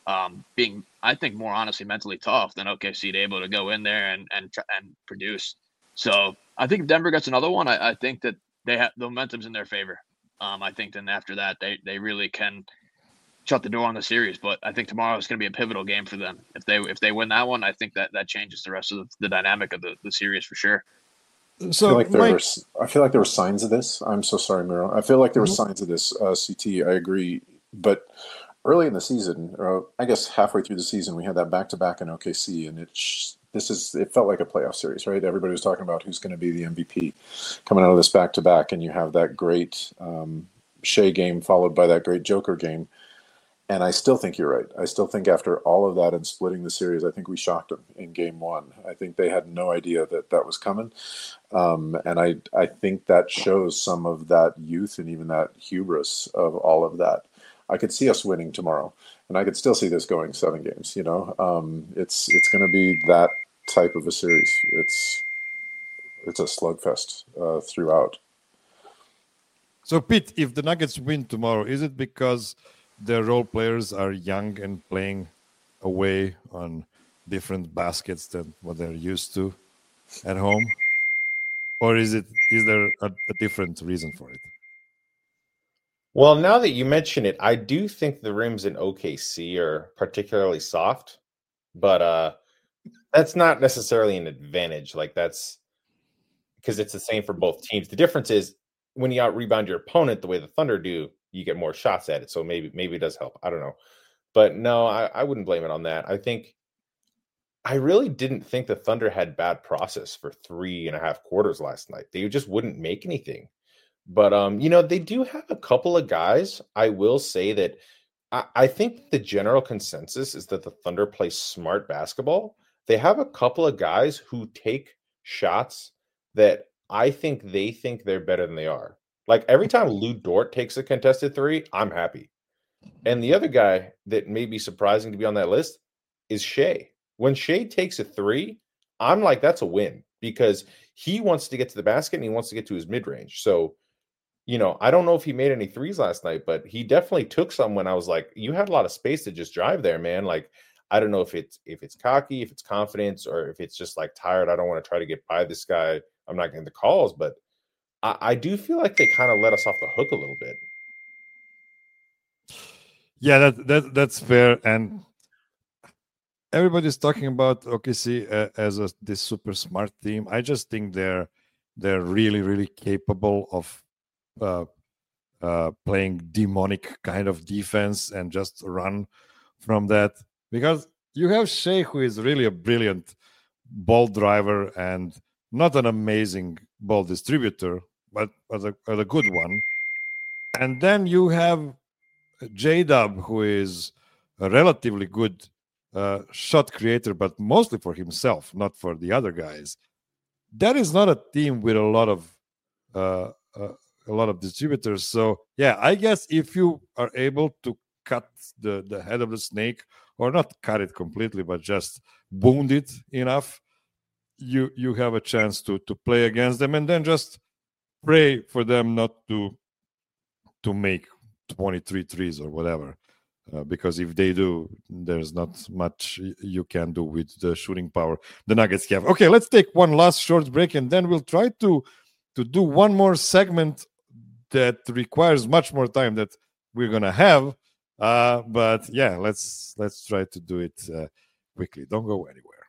um, being, I think, more honestly mentally tough than O K C to able to go in there and and and produce. So I think if Denver gets another one, I, I think that they have the momentum's in their favor. Um, I think then after that, they they really can shut the door on the series. But I think tomorrow is going to be a pivotal game for them. If they if they win that one, I think that that changes the rest of the, the dynamic of the, the series for sure. So I feel like there Mike, were I feel like there were signs of this. I'm so sorry, Miro. I feel like there were mm-hmm. signs of this. Uh, C T, I agree, but early in the season, or I guess halfway through the season, we had that back to back in O K C, and it sh- this is it felt like a playoff series, right? Everybody was talking about who's going to be the M V P coming out of this back to back, and you have that great um, Shea game followed by that great Joker game. And I still think you're right. I still think after all of that and splitting the series, I think we shocked them in game one. I think they had no idea that that was coming. Um, and I, I think that shows some of that youth and even that hubris of all of that. I could see us winning tomorrow, and I could still see this going seven games. You know, um, it's it's going to be that type of a series. It's it's a slugfest uh, throughout. So, Pete, if the Nuggets win tomorrow, is it because their role players are young and playing away on different baskets than what they're used to at home? Or is it is there a, a different reason for it? Well, now that you mention it, I do think the rims in O K C are particularly soft, but uh, that's not necessarily an advantage. Like that's because it's the same for both teams. The difference is when you out rebound your opponent the way the Thunder do, you get more shots at it. So maybe maybe it does help. I don't know. But no, I, I wouldn't blame it on that. I think I really didn't think the Thunder had bad process for three and a half quarters last night. They just wouldn't make anything. But, um, you know, they do have a couple of guys. I will say that I, I think the general consensus is that the Thunder play smart basketball. They have a couple of guys who take shots that I think they think they're better than they are. Like every time Lou Dort takes a contested three, I'm happy. And the other guy that may be surprising to be on that list is Shea. When Shea takes a three, I'm like, that's a win because he wants to get to the basket and he wants to get to his mid-range. So, you know, I don't know if he made any threes last night, but he definitely took some when I was like, you had a lot of space to just drive there, man. Like, I don't know if it's if it's cocky, if it's confidence, or if it's just like tired. I don't want to try to get by this guy. I'm not getting the calls, but I, I do feel like they kind of let us off the hook a little bit. Yeah, that, that that's fair. And everybody's talking about O K C uh, as a, this super smart team. I just think they're they're really, really capable of uh, uh, playing demonic kind of defense and just run from that. Because you have Shea, who is really a brilliant ball driver and not an amazing ball distributor, but, but, a, but a good one. And then you have J-Dub, who is a relatively good uh, shot creator, but mostly for himself, not for the other guys. That is not a team with a lot of uh, uh, a lot of distributors. So, yeah, I guess if you are able to cut the, the head of the snake, or not cut it completely, but just wound it enough, you you have a chance to to play against them, and then just pray for them not to to make twenty-three threes or whatever. Uh, because if they do, there's not much you can do with the shooting power the Nuggets have. Okay, let's take one last short break, and then we'll try to to do one more segment that requires much more time that we're gonna have. Uh, but yeah, let's let's try to do it uh, quickly. Don't go anywhere.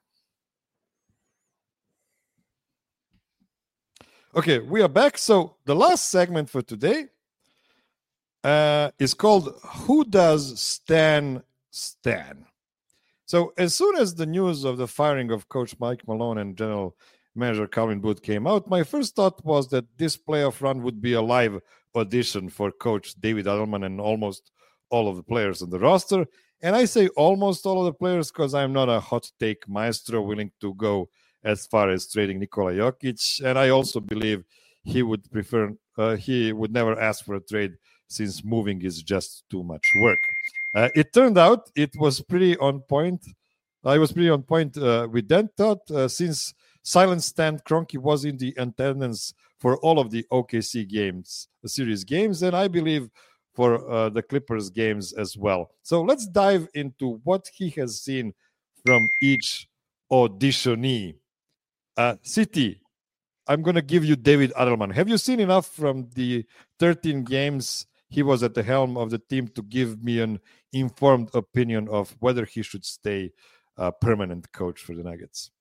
Okay, we are back. So the last segment for today uh, is called "Who Does Stan Stan?" So as soon as the news of the firing of Coach Mike Malone and General Manager Calvin Booth came out, my first thought was that this playoff run would be a live audition for Coach David Adelman and almost all of the players on the roster. And I say almost all of the players because I'm not a hot take maestro willing to go as far as trading Nikola Jokic. And I also believe he would prefer, uh, he would never ask for a trade since moving is just too much work. Uh, it turned out it was pretty on point. I was pretty on point uh, with that thought uh, since Silent Stan Kroenke was in the attendance for all of the O K C games, the series games. And I believe for uh, the Clippers games as well. So let's dive into what he has seen from each auditionee. Uh, City, I'm going to give you David Adelman. Have you seen enough from the thirteen games he was at the helm of the team to give me an informed opinion of whether he should stay a permanent coach for the Nuggets?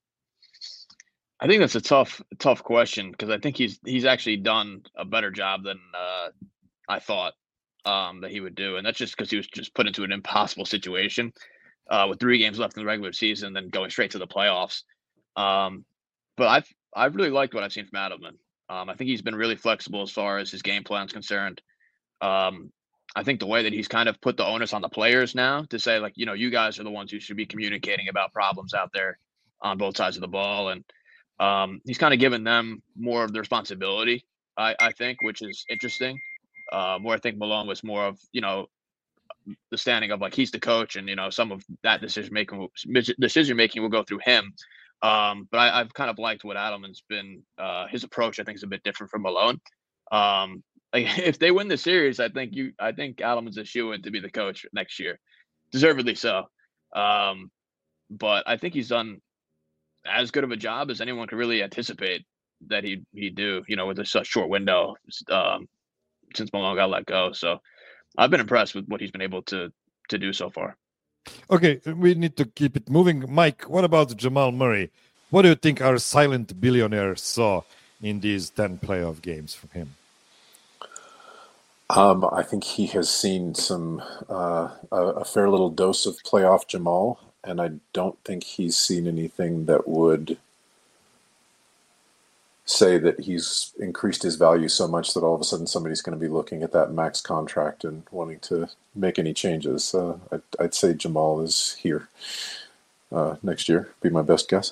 I think that's a tough, tough question because I think he's he's actually done a better job than uh, I thought um, that he would do, and that's just because he was just put into an impossible situation uh, with three games left in the regular season, then going straight to the playoffs. Um, but I've I've really liked what I've seen from Adelman. Um, I think he's been really flexible as far as his game plan is concerned. Um, I think the way that he's kind of put the onus on the players now to say, like, you know, you guys are the ones who should be communicating about problems out there on both sides of the ball, and um, he's kind of given them more of the responsibility, I, I think, which is interesting. Uh, where I think Malone was more of, you know, the standing of like he's the coach, and you know some of that decision making decision making will go through him. Um, but I, I've kind of liked what Adelman's been. Uh, his approach, I think, is a bit different from Malone. Um, like if they win the series, I think you, I think Adelman's a shoo-in to be the coach next year, deservedly so. Um, but I think he's done as good of a job as anyone could really anticipate that he'd he'd do. You know, with a such short window um, since Malone got let go. So I've been impressed with what he's been able to to do so far. Okay, we need to keep it moving. Mike, what about Jamal Murray? What do you think our silent billionaire saw in these ten playoff games from him? Um, I think he has seen some uh, a, a fair little dose of playoff Jamal, and I don't think he's seen anything that would say that he's increased his value so much that all of a sudden somebody's going to be looking at that max contract and wanting to make any changes. Uh, I'd, I'd say Jamal is here uh, next year, be my best guess.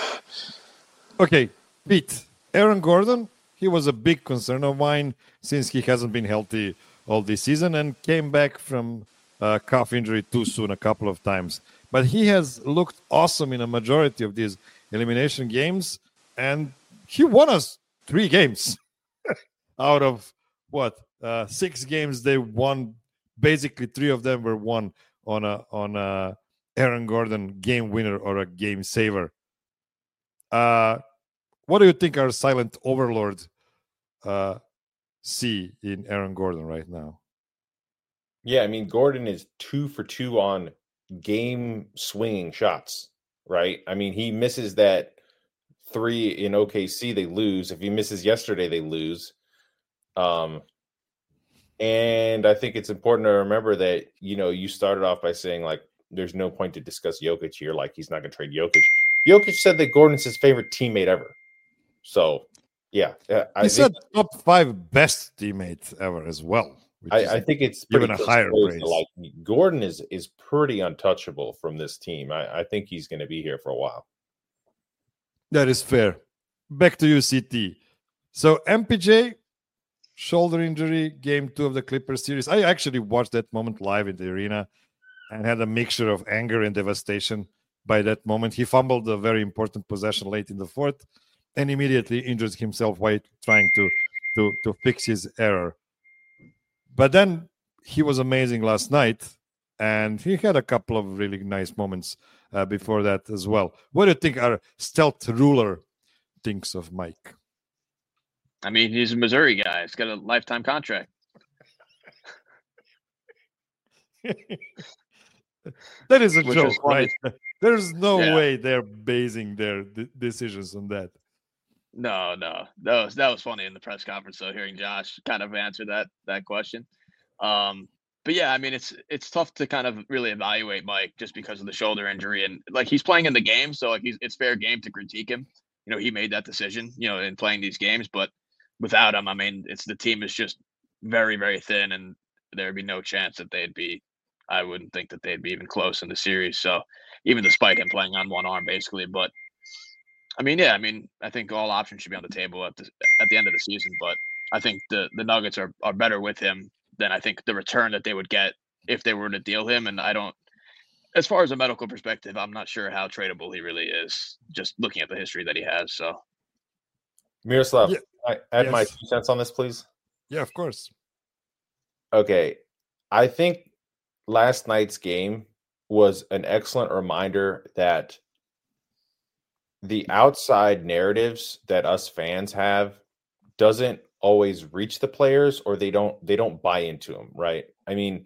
Okay, Pete, Aaron Gordon, he was a big concern of mine since he hasn't been healthy all this season and came back from a calf injury too soon a couple of times. But he has looked awesome in a majority of these elimination games, and he won us three games out of what uh, six games they won. Basically, three of them were won on a on a Aaron Gordon game winner or a game saver. Uh, what do you think our silent overlord uh, see in Aaron Gordon right now? Yeah, I mean, Gordon is two for two on game swinging shots, right? I mean, he misses that three in O K C, they lose. If he misses yesterday, they lose. Um, and I think it's important to remember that, you know, you started off by saying, like, there's no point to discuss Jokic here. Like, he's not going to trade Jokic. Jokic said that Gordon's his favorite teammate ever. So, yeah. I he think, said top five best teammates ever as well. I, I think it's given a higher praise. Like, Gordon is is pretty untouchable from this team. I, I think he's going to be here for a while. That is fair. Back to you, C T. So M P J, shoulder injury, game two of the Clippers series. I actually watched that moment live in the arena and had a mixture of anger and devastation by that moment. He fumbled a very important possession late in the fourth and immediately injured himself while trying to, to, to fix his error. But then he was amazing last night, and he had a couple of really nice moments uh, before that as well. What do you think our stealth ruler thinks of Mike? I mean, he's a Missouri guy. He's got a lifetime contract. That is a Which joke, is funny. right? There's no Yeah. way they're basing their d- decisions on that. No, no, that was that was funny in the press conference. So hearing Josh kind of answer that that question, um, but yeah, I mean it's it's tough to kind of really evaluate Mike just because of the shoulder injury and like he's playing in the game, so like he's it's fair game to critique him. You know, he made that decision, you know, in playing these games, but without him, I mean, it's the team is just very very thin, and there'd be no chance that they'd be. I wouldn't think that they'd be even close in the series. So even despite him playing on one arm, basically, but. I mean, yeah, I mean, I think all options should be on the table at the at the end of the season, but I think the, the Nuggets are, are better with him than I think the return that they would get if they were to deal him. And I don't, as far as a medical perspective, I'm not sure how tradable he really is, just looking at the history that he has. So, Miroslav, Yeah. I add my Yes. two cents on this, please. Yeah, of course. Okay, I think last night's game was an excellent reminder that the outside narratives that us fans have doesn't always reach the players, or they don't they don't buy into them, right? I mean,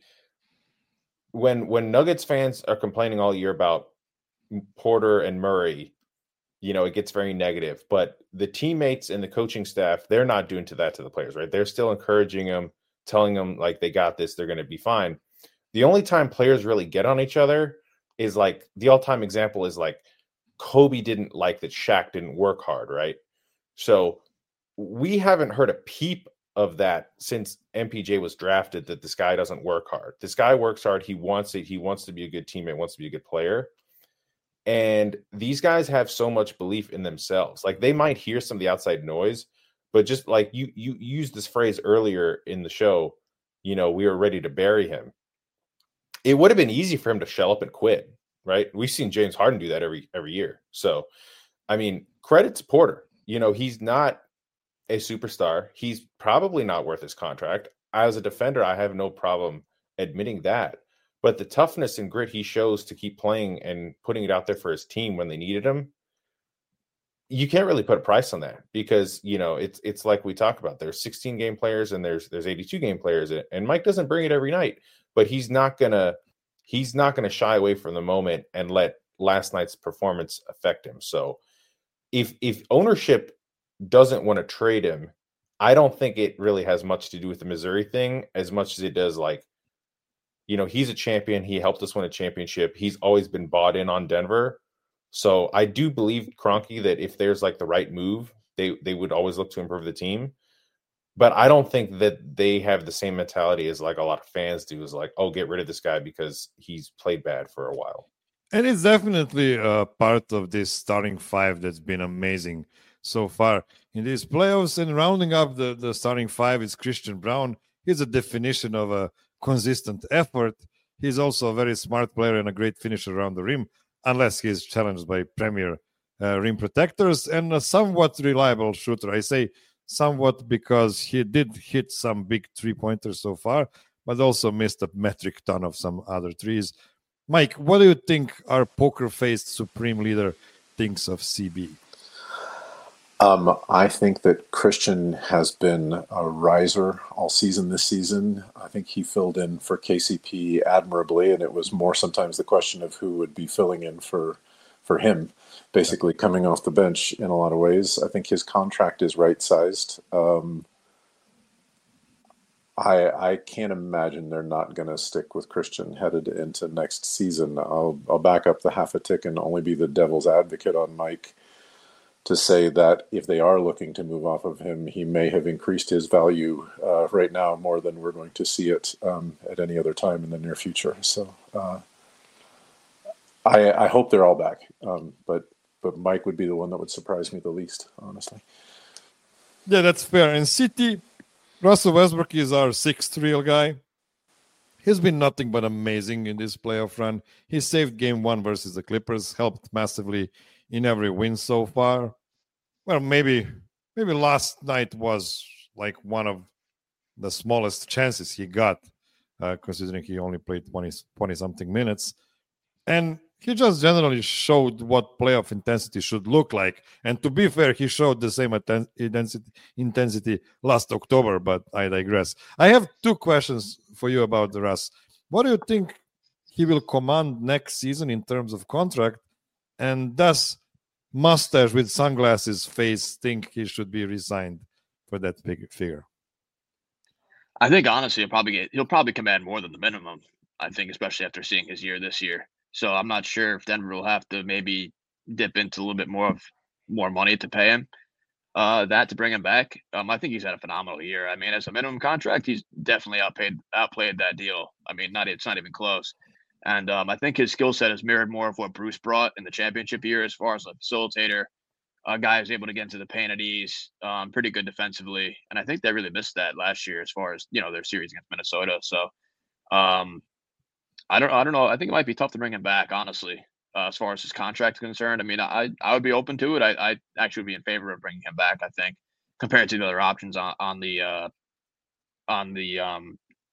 when when Nuggets fans are complaining all year about Porter and Murray, you know, it gets very negative. But the teammates and the coaching staff, they're not doing to that to the players, right? They're still encouraging them, telling them like they got this, they're going to be fine. The only time players really get on each other is like the all-time example is like Kobe didn't like that Shaq didn't work hard, right? So we haven't heard a peep of that since M P J was drafted, that this guy doesn't work hard. This guy works hard. He wants it. He wants to be a good teammate, wants to be a good player. And these guys have so much belief in themselves. Like they might hear some of the outside noise, but just like you, you used this phrase earlier in the show, you know, we were ready to bury him. It would have been easy for him to shell up and quit, right? We've seen James Harden do that every every year. So, I mean, credit to Porter. You know, he's not a superstar. He's probably not worth his contract. As a defender, I have no problem admitting that. But the toughness and grit he shows to keep playing and putting it out there for his team when they needed him, you can't really put a price on that because, you know, it's it's like we talk about. There's sixteen game players and there's there's eighty-two game players, and Mike doesn't bring it every night, but he's not gonna he's not gonna shy away from the moment and let last night's performance affect him. So if if ownership doesn't want to trade him, I don't think it really has much to do with the Missouri thing as much as it does like, you know, he's a champion. He helped us win a championship. He's always been bought in on Denver. So I do believe, Kroenke, that if there's like the right move, they they would always look to improve the team. But I don't think that they have the same mentality as like a lot of fans do, is like, oh, get rid of this guy because he's played bad for a while. And it's definitely a part of this starting five that's been amazing so far in these playoffs. And rounding up the, the starting five is Christian Braun. He's a definition of a consistent effort. He's also a very smart player and a great finisher around the rim, unless he's challenged by premier uh, rim protectors, and a somewhat reliable shooter. I say somewhat because he did hit some big three-pointers so far, but also missed a metric ton of some other threes. Mike, what do you think our poker-faced supreme leader thinks of C B? Um, I think that Christian has been a riser all season this season. I think he filled in for K C P admirably, and it was more sometimes the question of who would be filling in for for him, basically coming off the bench in a lot of ways. I think his contract is right-sized. Um, I I can't imagine they're not going to stick with Christian headed into next season. I'll I'll back up the half a tick and only be the devil's advocate on Mike to say that if they are looking to move off of him, he may have increased his value uh, right now more than we're going to see it um, at any other time in the near future. So uh, I, I hope they're all back, um, but but Mike would be the one that would surprise me the least, honestly. Yeah, that's fair. And City, Russell Westbrook is our sixth real guy. He's been nothing but amazing in this playoff run. He saved game one versus the Clippers, helped massively in every win so far. Well, maybe maybe last night was like one of the smallest chances he got, uh, considering he only played twenty, twenty-something minutes. And he just generally showed what playoff intensity should look like. And to be fair, he showed the same atten- intensity, intensity last October, but I digress. I have two questions for you about the Russ. What do you think he will command next season in terms of contract? And does mustache with sunglasses face think he should be re-signed for that big figure? I think honestly, he'll probably get he'll probably command more than the minimum. I think, especially after seeing his year this year. So I'm not sure if Denver will have to maybe dip into a little bit more of more money to pay him uh, that to bring him back. Um, I think he's had a phenomenal year. I mean, as a minimum contract, he's definitely outpaid outplayed that deal. I mean, not it's not even close. And um, I think his skill set has mirrored more of what Bruce brought in the championship year as far as a facilitator, a guy who's able to get into the paint at ease, um, pretty good defensively. And I think they really missed that last year as far as, you know, their series against Minnesota. So um, I don't I don't know. I think it might be tough to bring him back, honestly, uh, as far as his contract is concerned. I mean, I, I would be open to it. I, I actually would be in favor of bringing him back, I think, compared to the other options on, on the uh, on the um,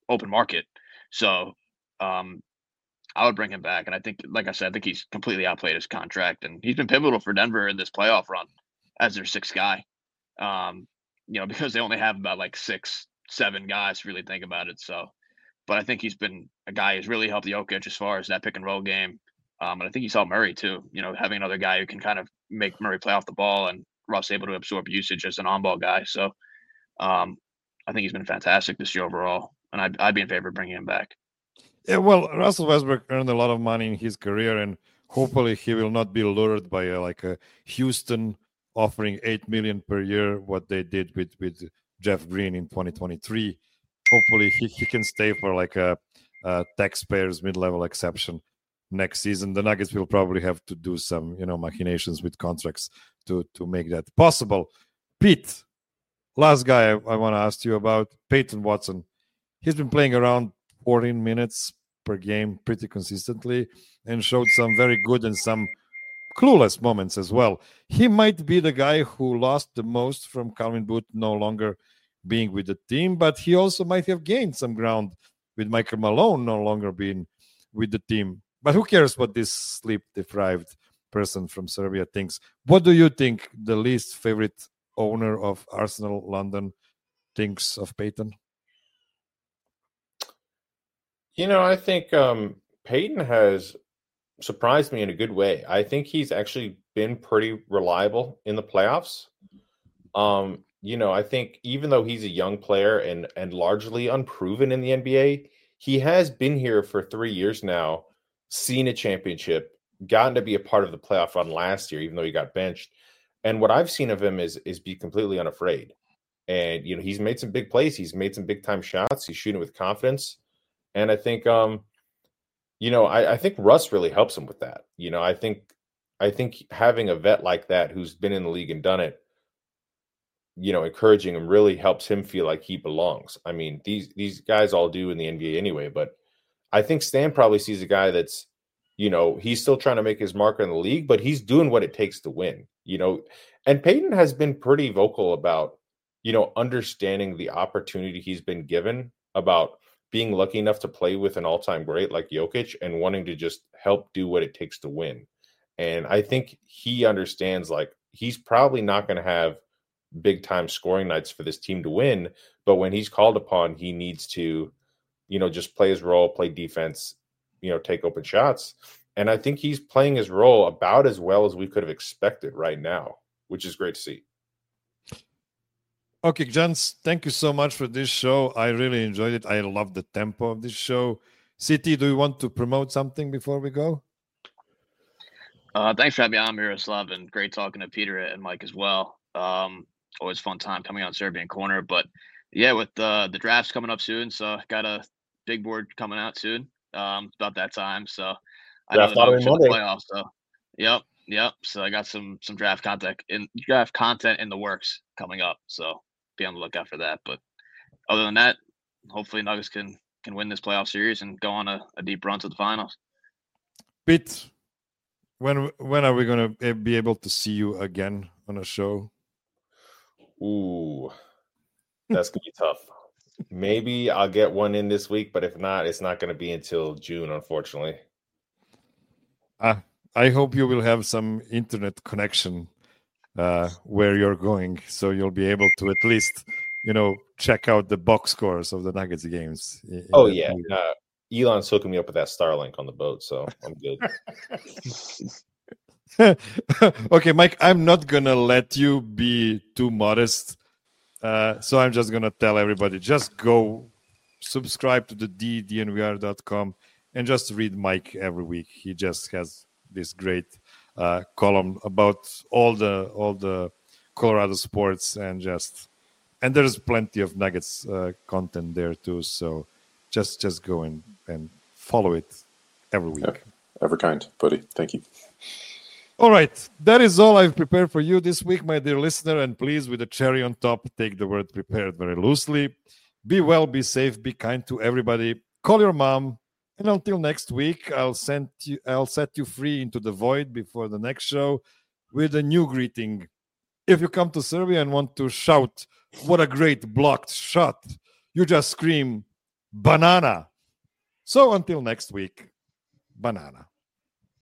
open market. So um, I would bring him back. And I think, like I said, I think he's completely outplayed his contract. And he's been pivotal for Denver in this playoff run as their sixth guy. Um, you know, because they only have about like six, seven guys to really think about it. So, but I think he's been a guy who's really helped Jokic as far as that pick and roll game. Um, and I think he saw Murray too, you know, having another guy who can kind of make Murray play off the ball and Russ able to absorb usage as an on-ball guy. So um, I think he's been fantastic this year overall. And I'd, I'd be in favor of bringing him back. Yeah, well, Russell Westbrook earned a lot of money in his career, and hopefully he will not be lured by uh, like a Houston offering eight million per year, what they did with, with Jeff Green in twenty twenty-three. Hopefully he, he can stay for like a, a taxpayers mid-level exception next season. The Nuggets will probably have to do some, you know, machinations with contracts to, to make that possible. Pete, last guy I, I want to ask you about, Peyton Watson. He's been playing around fourteen minutes per game pretty consistently and showed some very good and some clueless moments as well. He might be the guy who lost the most from Calvin Booth no longer being with the team, but he also might have gained some ground with Michael Malone no longer being with the team. But who cares what this sleep-deprived person from Serbia thinks? What do you think the least favorite owner of Arsenal London thinks of Peyton? You know, I think um, Peyton has surprised me in a good way. I think he's actually been pretty reliable in the playoffs. Um, you know, I think even though he's a young player and and largely unproven in the N B A, he has been here for three years now, seen a championship, gotten to be a part of the playoff run last year, even though he got benched. And what I've seen of him is is be completely unafraid. And, you know, he's made some big plays. He's made some big time shots. He's shooting with confidence. And I think, um, you know, I, I think Russ really helps him with that. You know, I think, I think having a vet like that who's been in the league and done it, you know, encouraging him really helps him feel like he belongs. I mean, these these guys all do in the N B A anyway, but I think Stan probably sees a guy that's, you know, he's still trying to make his mark in the league, but he's doing what it takes to win. You know, and Peyton has been pretty vocal about, you know, understanding the opportunity he's been given, about being lucky enough to play with an all-time great like Jokic and wanting to just help do what it takes to win. And I think he understands, like, he's probably not going to have big-time scoring nights for this team to win, but when he's called upon, he needs to, you know, just play his role, play defense, you know, take open shots. And I think he's playing his role about as well as we could have expected right now, which is great to see. Okay, gents, thank you so much for this show. I really enjoyed it. I love the tempo of this show. C T, do you want to promote something before we go? Uh, thanks for having me on, Miroslav, and great talking to Peter and Mike as well. Um, always fun time coming on Serbian Corner. But yeah, with uh, the drafts coming up soon, so got a big board coming out soon. Um, it's about that time, so I know the Nuggets are in the playoffs. So yep, yep. So I got some some draft content in draft content in the works coming up. So be on the lookout for that. But other than that, hopefully Nuggets can can win this playoff series and go on a, a deep run to the finals. Pete, when when are we going to be able to see you again on a show? Ooh, that's gonna be tough. Maybe I'll get one in this week, but if not, it's not going to be until June, unfortunately. Uh, I hope you will have some internet connection uh, where you're going, so you'll be able to at least, you know, check out the box scores of the Nuggets games. Oh, yeah. Uh, Elon's hooking me up with that Starlink on the boat, so I'm good. Okay, Mike, I'm not going to let you be too modest. Uh, so I'm just going to tell everybody, just go subscribe to the D, D N V R dot com, and just read Mike every week. He just has this great uh, column about all the all the Colorado sports, and just and there's plenty of Nuggets uh, content there too. So just just go and, and follow it every week. Yeah, ever kind, buddy. Thank you. All right, that is all I've prepared for you this week, my dear listener, and please, with a cherry on top, take the word prepared very loosely. Be well, be safe, be kind to everybody. Call your mom, and until next week, I'll send you, I'll set you free into the void before the next show with a new greeting. If you come to Serbia and want to shout, "What a great blocked shot!" you just scream, banana. So until next week, banana.